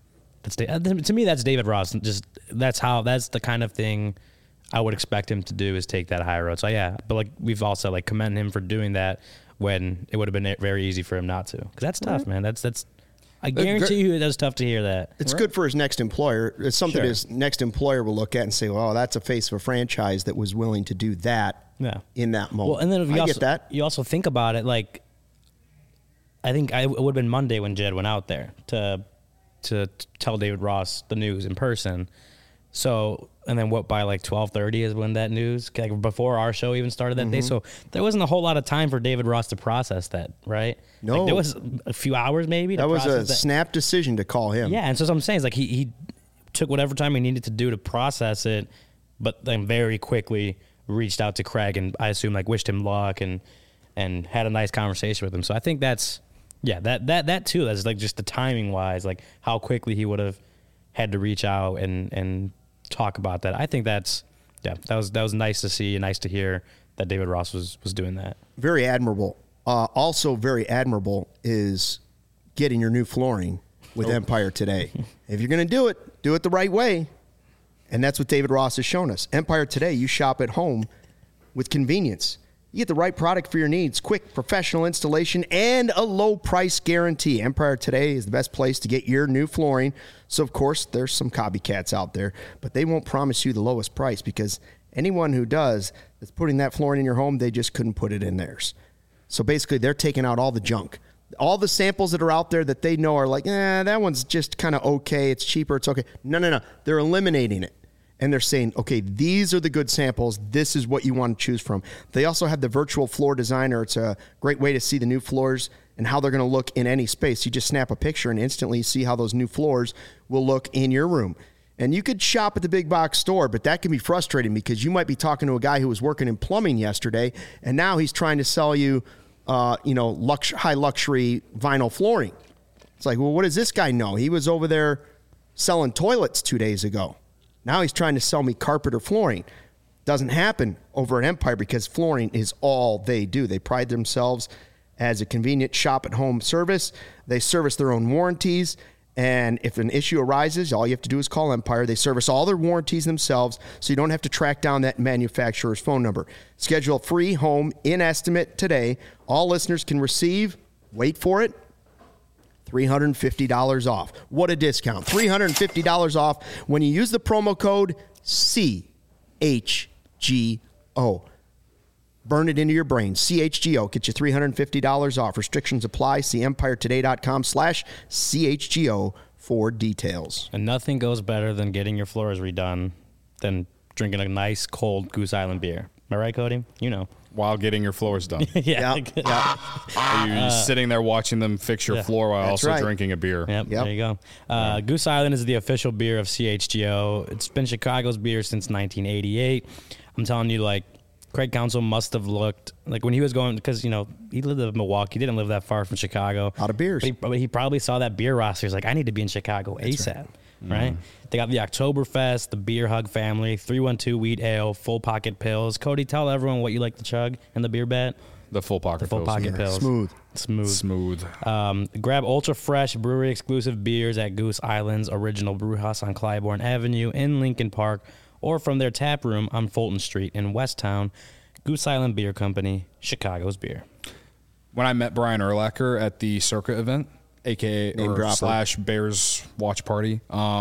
to me that's David Ross. Just that's the kind of thing I would expect him to do is take that high road. So yeah, but like we've also like commended him for doing that when it would have been very easy for him not to. Because that's tough, man. That's I guarantee you that's tough to hear that. It's good for his next employer. It's something his next employer will look at and say, well, that's a face of a franchise that was willing to do that in that moment. Well, and then if you get that. You also think about it, like, I think it would have been Monday when Jed went out there to tell David Ross the news in person. So, and then by like 12:30 is when that news, like before our show even started that day. So there wasn't a whole lot of time for David Ross to process that, right? No. Like there was a few hours maybe. That was a snap decision to call him. Yeah, and so what I'm saying is like he took whatever time he needed to do to process it, but then very quickly reached out to Craig and I assume like wished him luck and had a nice conversation with him. So I think that's, that too, that's like just the timing wise, like how quickly he would have had to reach out and talk about that. I think that was nice to see and nice to hear that David Ross was doing that. Very admirable. Also very admirable is getting your new flooring with Empire Today. If you're going to do it the right way. And that's what David Ross has shown us. Empire Today, you shop at home with convenience. You get the right product for your needs, quick professional installation, and a low price guarantee. Empire Today is the best place to get your new flooring. So, of course, there's some copycats out there, but they won't promise you the lowest price because anyone who does that's putting that flooring in your home, they just couldn't put it in theirs. So basically, they're taking out all the junk. All the samples that are out there that they know are like, that one's just kind of okay. It's cheaper. It's okay. No. They're eliminating it. And they're saying, okay, these are the good samples. This is what you want to choose from. They also have the virtual floor designer. It's a great way to see the new floors and how they're going to look in any space. You just snap a picture and instantly see how those new floors will look in your room. And you could shop at the big box store, but that can be frustrating because you might be talking to a guy who was working in plumbing yesterday, and now he's trying to sell you, high luxury vinyl flooring. It's like, well, what does this guy know? He was over there selling toilets 2 days ago. Now he's trying to sell me carpet or flooring. Doesn't happen over at Empire because flooring is all they do. They pride themselves as a convenient shop-at-home service. They service their own warranties. And if an issue arises, all you have to do is call Empire. They service all their warranties themselves, so you don't have to track down that manufacturer's phone number. Schedule a free home in-estimate today. All listeners can receive, wait for it, $350 off. What a discount. $350 off when you use the promo code CHGO. Burn it into your brain. CHGO. Get you $350 off. Restrictions apply. See EmpireToday.com/CHGO for details. And nothing goes better than getting your floors redone than drinking a nice cold Goose Island beer. Am I right, Cody? You know. While getting your floors done. Yeah. Are you sitting there watching them fix your floor while also drinking a beer? Yep. There you go. Goose Island is the official beer of CHGO. It's been Chicago's beer since 1988. I'm telling you, like, Craig Counsell must have looked, like, when he was going, because, he lived in Milwaukee. He didn't live that far from Chicago. Out of beers. But he probably saw that beer roster. He's like, I need to be in Chicago ASAP. Right? They got the Oktoberfest, the Beer Hug family, 312 Wheat Ale, Full Pocket Pills. Cody, tell everyone what you like to chug in the beer bet. The Full Pocket Pills. Smooth. Grab ultra fresh brewery exclusive beers at Goose Island's original brew house on Clybourne Avenue in Lincoln Park, or from their tap room on Fulton Street in Westtown. Goose Island Beer Company, Chicago's beer. When I met Brian Urlacher at the Circa event, /Bears watch party.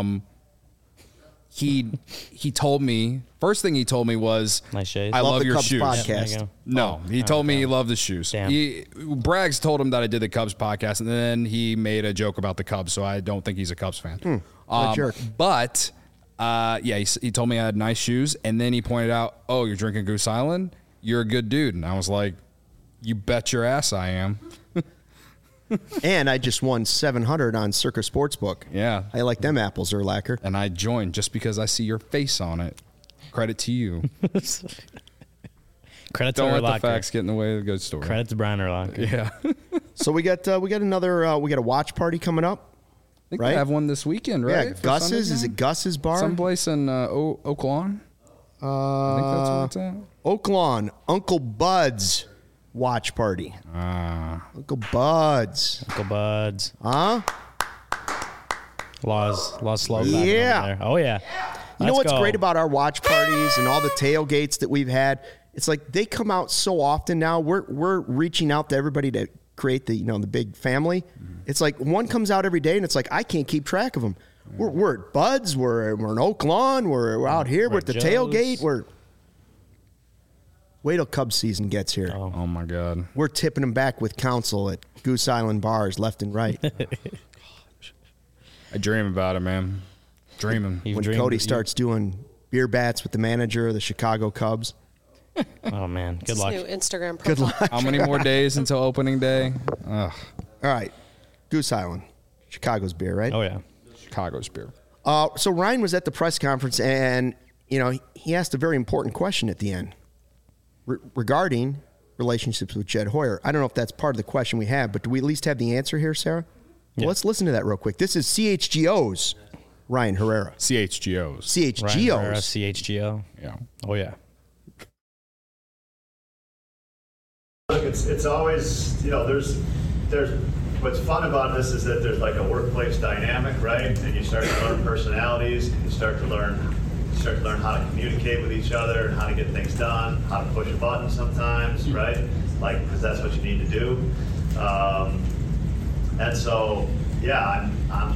He told me, first thing he told me was, nice shades. I love your Cubs shoes. Podcast. No, he told me he loved the shoes. Braggs told him that I did the Cubs podcast, and then he made a joke about the Cubs, so I don't think he's a Cubs fan. Jerk. But he told me I had nice shoes, and then he pointed out, oh, you're drinking Goose Island? You're a good dude. And I was like, you bet your ass I am. And I just won 700 on Circa Sportsbook. Yeah. I like them apples, Urlacher. And I joined just because I see your face on it. Credit to you. Credit to Don't let Urlacher. the facts get in the way of the good story. Credit to Brian Urlacher. Yeah. So we got another we got a watch party coming up. I think Right? they have one this weekend, right? Yeah, For Gus's. Sunday's Is game? it Gus's bar? Someplace in Oak Lawn? I think that's where it's at. Oak Lawn, Uncle Bud's watch party. Uncle Bud's. Uncle Buds. Huh? Laws slow. Yeah. There. Oh yeah. You know Let's what's go. great about our watch parties and all the tailgates that we've had? It's like they come out so often now. We're reaching out to everybody to create the the big family. Mm-hmm. It's like one comes out every day, and it's like I can't keep track of them. We're at Bud's. We're in Oak Lawn. We're out here. We're at the Joe's. tailgate. Wait till Cubs season gets here. Oh, my God. We're tipping them back with counsel at Goose Island bars left and right. I dream about it, man. Dreaming. You've When dreamed- Cody you- starts doing beer bats with the manager of the Chicago Cubs. Oh man. Good His luck. new Instagram profile. Good luck. How many more days until opening day? Ugh. All right. Goose Island. Chicago's beer, right? Oh yeah. Chicago's beer. So Ryan was at the press conference, and he asked a very important question at the end regarding relationships with Jed Hoyer. I don't know if that's part of the question we have, but do we at least have the answer here, Sarah? Well, Yeah. let's listen to that real quick. This is CHGO's Ryan Herrera. CHGOs. Ryan Herrera, CHGO's. CHGO. Yeah. Oh yeah. Look, it's always, there's what's fun about this is that there's like a workplace dynamic, right? And you start to learn personalities, and you start to learn how to communicate with each other, and how to get things done, how to push a button sometimes, right? Like, because that's what you need to do. And so, yeah,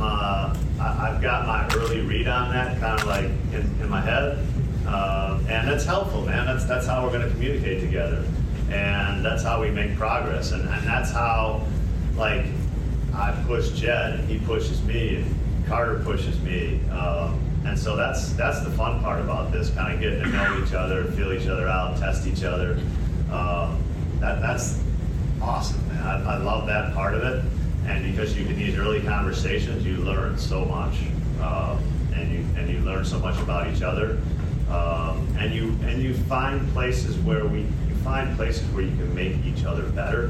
I've got my early read on that kind of like in my head, and that's helpful, man. That's how we're going to communicate together, and that's how we make progress, and that's how, like, I push Jed, and he pushes me, and Carter pushes me, and so that's the fun part about this, kind of getting to know each other, feel each other out, test each other. That's awesome, man. I love that part of it. And because in these early conversations, you learn so much, and you learn so much about each other, and you find places where you can make each other better,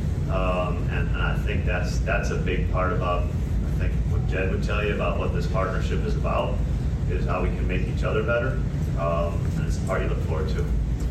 and I think that's a big part about, I think, what Jed would tell you about what this partnership is about, is how we can make each other better, and it's the part you look forward to.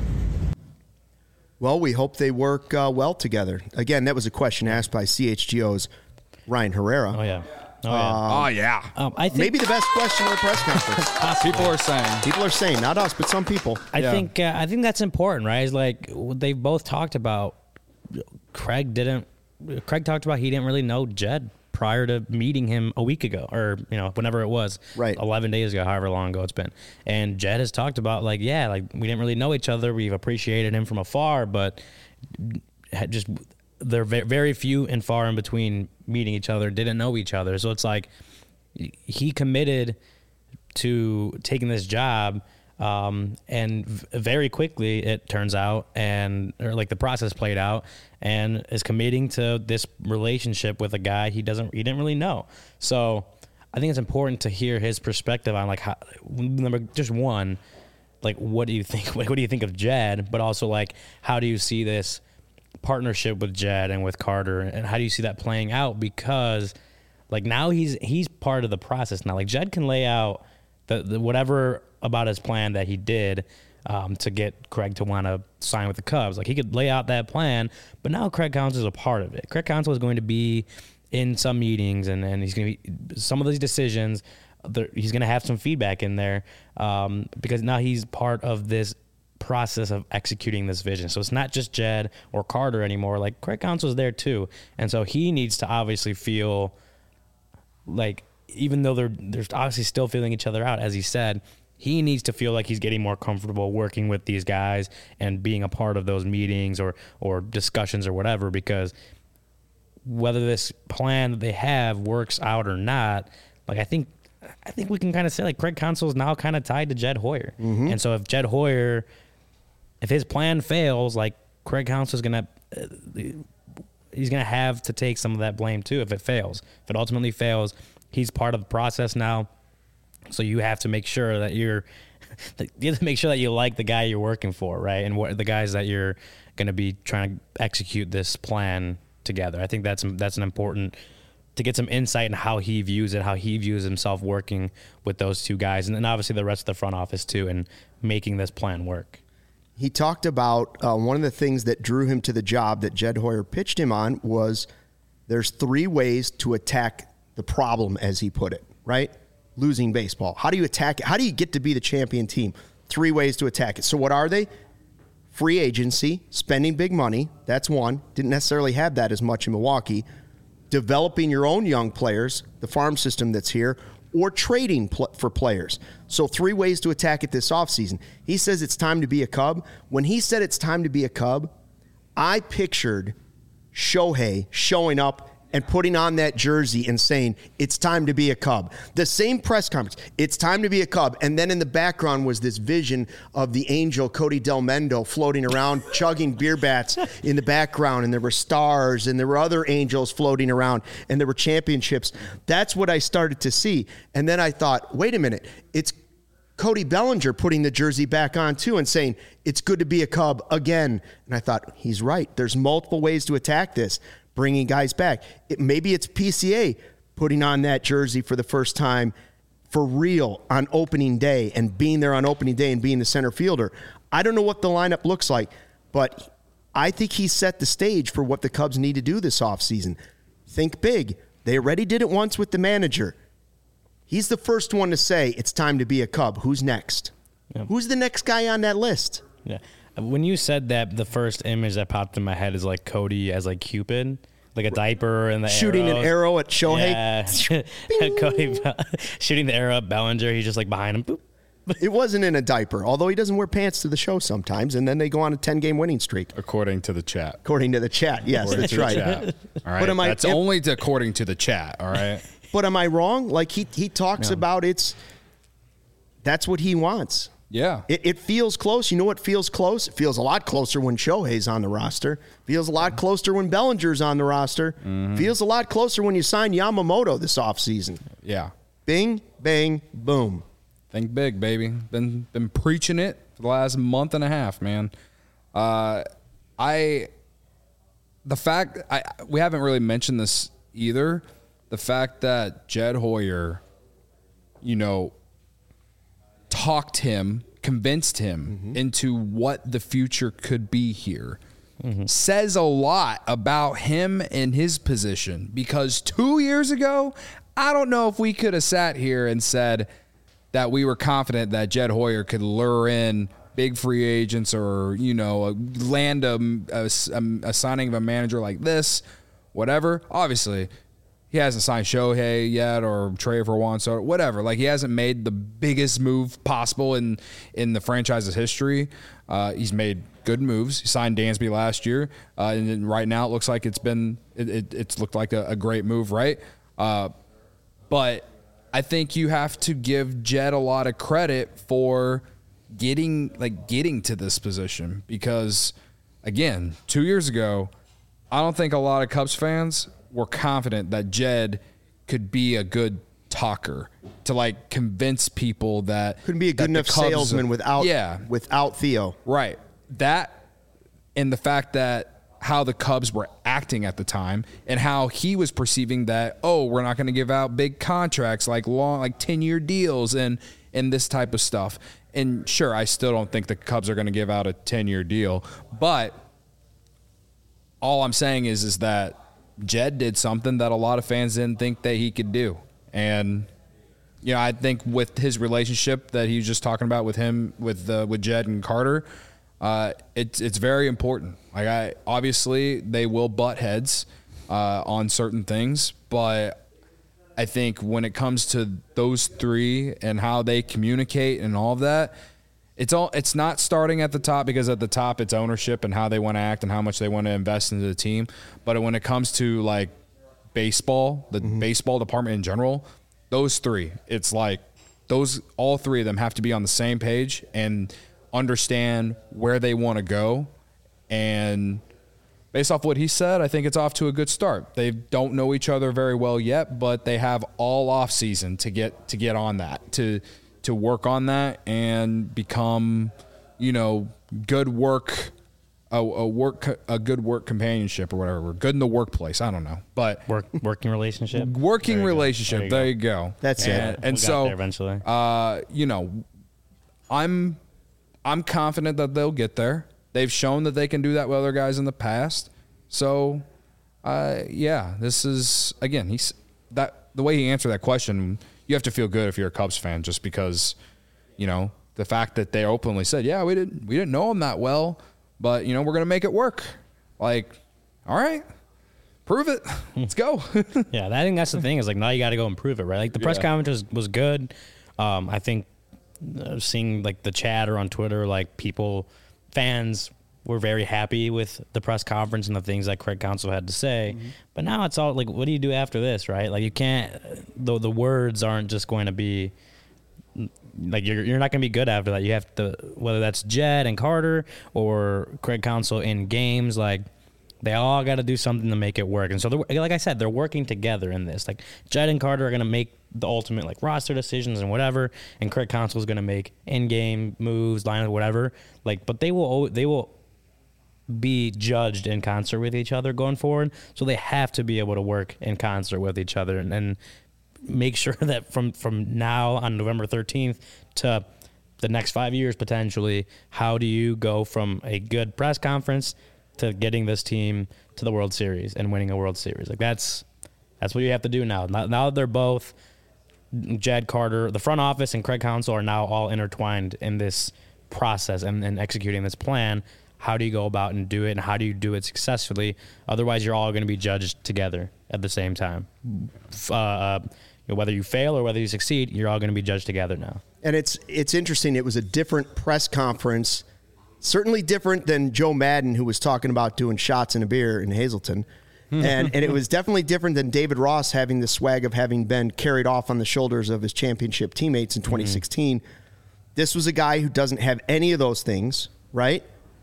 Well, we hope they work well together. Again, that was a question asked by CHGO's Ryan Herrera. Oh yeah. Oh yeah. Oh, yeah. I think Maybe the best question of the press conference. People are saying. People are saying, not us, but some people. I think that's important, right? It's like they've both talked about. Craig talked about he didn't really know Jed prior to meeting him a week ago, or whenever it was, right, 11 days ago, however long ago it's been. And Jed has talked about we didn't really know each other. We've appreciated him from afar, but just they're very few and far in between meeting each other. Didn't know each other, so it's like he committed to taking this job. And very quickly it turns out, the process played out, and is committing to this relationship with a guy he didn't really know. So I think it's important to hear his perspective on how, just one, what do you think? What do you think of Jed? But also how do you see this partnership with Jed and with Carter, and how do you see that playing out? Because now he's part of the process now. Jed can lay out the whatever about his plan that he did to get Craig to want to sign with the Cubs. He could lay out that plan, but now Craig Counsell is a part of it. Craig Counsell is going to be in some meetings, and he's going to be some of these decisions. He's going to have some feedback in there because now he's part of this process of executing this vision. So it's not just Jed or Carter anymore. Craig Counsell is there too, and so he needs to obviously feel even though they're obviously still feeling each other out, as he said, he needs to feel like he's getting more comfortable working with these guys and being a part of those meetings or discussions or whatever, because whether this plan that they have works out or not, I think we can kind of say Craig Counsell is now kind of tied to Jed Hoyer. Mm-hmm. And so if his plan fails, Craig Counsell is going to, he's going to have to take some of that blame too if it fails. If it ultimately fails, he's part of the process now. So you have to make sure that you're you have to make sure that you like the guy you're working for, right? And what the guys that you're going to be trying to execute this plan together. I think that's an important to get some insight in how he views it, how he views himself working with those two guys, and then obviously the rest of the front office too, and making this plan work. He talked about one of the things that drew him to the job that Jed Hoyer pitched him on was there's 3 ways to attack the problem, as he put it, right? Losing baseball. How do you attack it? How do you get to be the champion team? 3 ways to attack it. So what are they? Free agency, spending big money. That's one. Didn't necessarily have that as much in Milwaukee. Developing your own young players, the farm system that's here, or trading for players. So 3 ways to attack it this offseason. He says it's time to be a Cub. When he said it's time to be a Cub, I pictured Shohei showing up and putting on that jersey and saying, it's time to be a Cub. The same press conference, it's time to be a Cub. And then in the background was this vision of the angel Cody Del Mendo floating around, chugging beer bats in the background. And there were stars and there were other angels floating around and there were championships. That's what I started to see. And then I thought, wait a minute, it's Cody Bellinger putting the jersey back on too and saying, it's good to be a Cub again. And I thought, he's right. There's multiple ways to attack this. Bringing guys back. Maybe it's PCA putting on that jersey for the first time for real on opening day and being there on opening day and being the center fielder. I don't know what the lineup looks like, but I think he set the stage for what the Cubs need to do this offseason. Think big. They already did it once with the manager. He's the first one to say it's time to be a Cub. Who's next? Yeah. Who's the next guy on that list? Yeah. When you said that, the first image that popped in my head is like Cody as like Cupid, like a diaper and the shooting arrows. An arrow at Shohei. Yeah. Cody shooting the arrow at Bellinger. He's just like behind him. Boop. It wasn't in a diaper, although he doesn't wear pants to the show sometimes, and then they go on a 10-game winning streak. According to the chat. According to the chat, yes, that's right. All right, but that's only according to the chat, all right? But am I wrong? Like he talks about that's what he wants. Yeah. It feels close. You know what feels close? It feels a lot closer when Shohei's on the roster. Feels a lot closer when Bellinger's on the roster. Mm-hmm. Feels a lot closer when you sign Yamamoto this offseason. Yeah. Bing, bang, boom. Think big, baby. Been preaching it for the last month and a half, man. We haven't really mentioned this either. The fact that Jed Hoyer, convinced him into what the future could be here, says a lot about him and his position. Because 2 years ago, I don't know if we could have sat here and said that we were confident that Jed Hoyer could lure in big free agents or, land a signing of a manager like this, whatever. Obviously, he hasn't signed Shohei yet or traded for Juan Soto, whatever. Like, he hasn't made the biggest move possible in the franchise's history. He's made good moves. He signed Dansby last year, and then right now it looks like it's looked like a great move, right? But I think you have to give Jed a lot of credit for getting to this position because, again, 2 years ago, I don't think a lot of Cubs fans were confident that Jed could be a good talker to convince people that couldn't be a good enough salesman without Theo. Right. That and the fact that how the Cubs were acting at the time and how he was perceiving that, we're not going to give out big contracts like 10-year deals and this type of stuff. And sure, I still don't think the Cubs are going to give out a 10-year deal, but all I'm saying is that Jed did something that a lot of fans didn't think that he could do. And, I think with his relationship that he was just talking about with Jed and Carter, it's very important. Obviously they will butt heads on certain things, but I think when it comes to those three and how they communicate and all of that, it's not starting at the top because at the top it's ownership and how they want to act and how much they want to invest into the team. But when it comes to baseball, the baseball department in general, those three, it's all three of them have to be on the same page and understand where they want to go. And based off what he said, I think it's off to a good start. They don't know each other very well yet, but they have all off season to get on that, to to work on that and become, good work. A good work companionship or whatever. We're good in the workplace. I don't know, but working relationship. Working relationship. There you go. That's it. And so eventually, I'm confident that they'll get there. They've shown that they can do that with other guys in the past. So, this is again. The way he answered that question. You have to feel good if you're a Cubs fan, just because, the fact that they openly said, "Yeah, we didn't know him that well." But, we're going to make it work. Like, all right, prove it. Let's go. Yeah, I think that's the thing is, like, now you got to go and prove it, right? Like, the press conference was good. I think seeing, like, the chatter on Twitter, like, fans were very happy with the press conference and the things that Craig Counsell had to say. Mm-hmm. But now it's all, like, what do you do after this, right? Like, you can't – the words aren't just going to be – like you're not going to be good after that. You have to, whether that's Jed and Carter or Craig Counsell in games, like they all got to do something to make it work. And so, like I said, they're working together in this. Like Jed and Carter are going to make the ultimate like roster decisions and whatever, and Craig Counsell is going to make in-game moves, lineup, whatever. Like, but they will be judged in concert with each other going forward. So they have to be able to work in concert with each other and make sure that from now on November 13th to the next 5 years potentially, how do you go from a good press conference to getting this team to the World Series and winning a World Series? Like that's what you have to do now. Now that they're both Jed Carter, the front office and Craig Counsell are now all intertwined in this process and executing this plan. How do you go about and do it, and how do you do it successfully? Otherwise, you're all going to be judged together at the same time. Whether you fail or whether you succeed, you're all going to be judged together now. And it's interesting. It was a different press conference, certainly different than Joe Madden, who was talking about doing shots in a beer in Hazleton. And it was definitely different than David Ross having the swag of having been carried off on the shoulders of his championship teammates in 2016. This was a guy who doesn't have any of those things, right?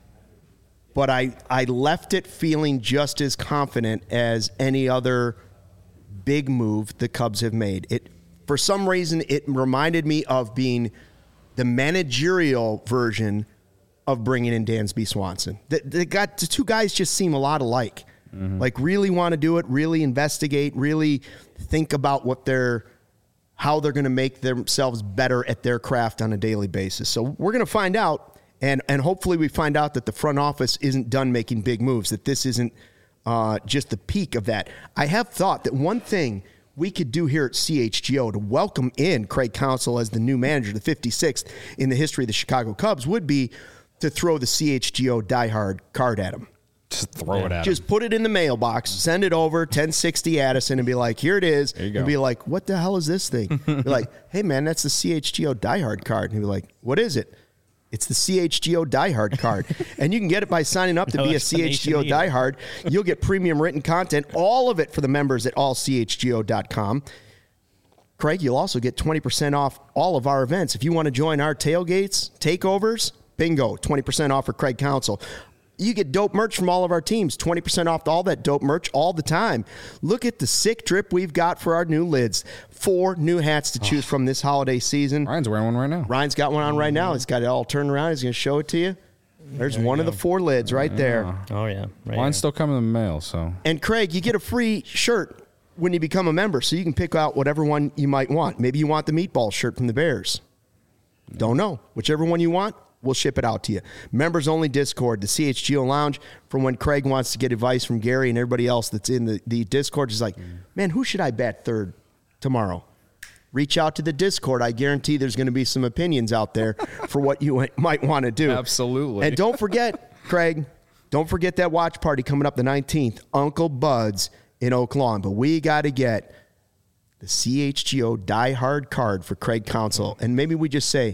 But I left it feeling just as confident as any other big move the Cubs have made. For some reason, it reminded me of being the managerial version of bringing in Dansby Swanson. The two guys just seem a lot alike. Mm-hmm. Like really want to do it, really investigate, really think about how they're going to make themselves better at their craft on a daily basis. So we're going to find out, and hopefully we find out that the front office isn't done making big moves, that this isn't just the peak of that. I have thought that one thing we could do here at CHGO to welcome in Craig Counsell as the new manager, the 56th in the history of the Chicago Cubs, would be to throw the CHGO diehard card at him. Just throw it at him. Just put it in the mailbox, send it over, 1060 Addison, and be like, here it is. There you go. And be like, what the hell is this thing? Be like, hey, man, that's the CHGO diehard card. And he'd be like, what is it? It's the CHGO diehard card. And you can get it by signing up to be a CHGO diehard. You'll get premium written content, all of it for the members at allchgo.com. Craig, you'll also get 20% off all of our events. If you want to join our tailgates, takeovers, bingo, 20% off for Craig Counsell. You get dope merch from all of our teams, 20% off all that dope merch all the time. Look at the sick drip we've got for our new lids. 4 new hats to choose from this holiday season. Ryan's wearing one right now. Ryan's got one on right now. He's got it all turned around. He's going to show it to you. There's one of the 4 lids right there. Oh, yeah. Right. Mine's still coming in the mail, so. And Craig, you get a free shirt when you become a member, so you can pick out whatever one you might want. Maybe you want the meatball shirt from the Bears. Don't know. Whichever one you want, we'll ship it out to you. Members only Discord, the CHGO Lounge, for when Craig wants to get advice from Gary and everybody else that's in the Discord. Is like, man, who should I bat third tomorrow? Reach out to the Discord. I guarantee there's going to be some opinions out there for what you might want to do. Absolutely. And don't forget, Craig, don't forget that watch party coming up the 19th, Uncle Bud's in Oak Lawn. But we got to get the CHGO Die Hard card for Craig Counsell. And maybe we just say,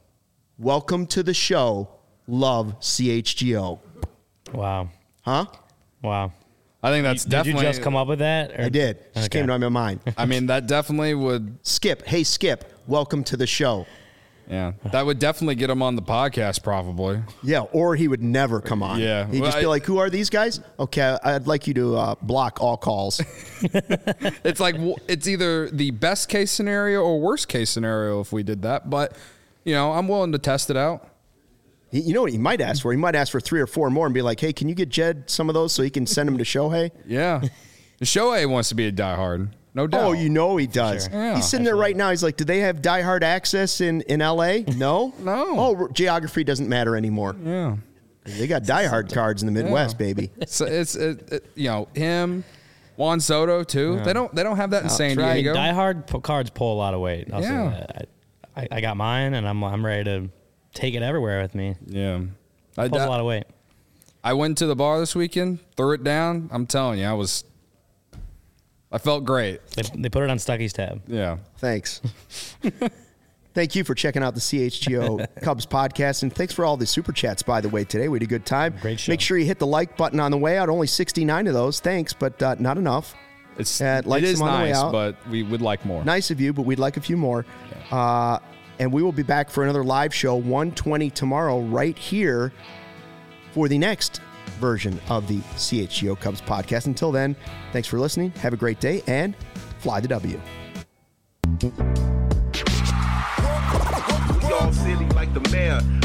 welcome to the show. Love CHGO. Wow. Huh? Wow. I think that's definitely. Did you just come up with that? Or? I did. Just came to my mind. I mean, that definitely would. Skip. Hey, Skip. Welcome to the show. Yeah, that would definitely get him on the podcast, probably. Yeah, or he would never come on. Yeah. He'd just be like, who are these guys? Okay, I'd like you to block all calls. It's like, it's either the best case scenario or worst case scenario if we did that. But, I'm willing to test it out. You know what he might ask for? He might ask for 3 or 4 more and be like, hey, can you get Jed some of those so he can send them to Shohei? Yeah. Shohei wants to be a diehard. No doubt. Oh, he does. Sure. Yeah. He's sitting there right now. He's like, do they have diehard access in L.A.? No? No. Oh, geography doesn't matter anymore. Yeah. They got diehard cards in the Midwest, baby. So it's him, Juan Soto too. Yeah. They don't have that in San I mean, Diego. diehard cards pull a lot of weight. I'll say Yeah. that. I got mine, and I'm ready to take it everywhere with me. Yeah. Pulls a lot of weight. I went to the bar this weekend, threw it down. I'm telling you, I felt great. They put it on Stucky's tab. Yeah. Thanks. Thank you for checking out the CHGO Cubs podcast. And thanks for all the super chats, by the way, today. We had a good time. Great show. Make sure you hit the like button on the way out. Only 69 of those. Thanks, but not enough. It is on the way nice, out. but we would like more. Nice of you, but we'd like a few more. And we will be back for another live show, 1:20 tomorrow, right here for the next version of the CHGO Cubs podcast. Until then, thanks for listening. Have a great day and fly the W. We all silly like the mayor.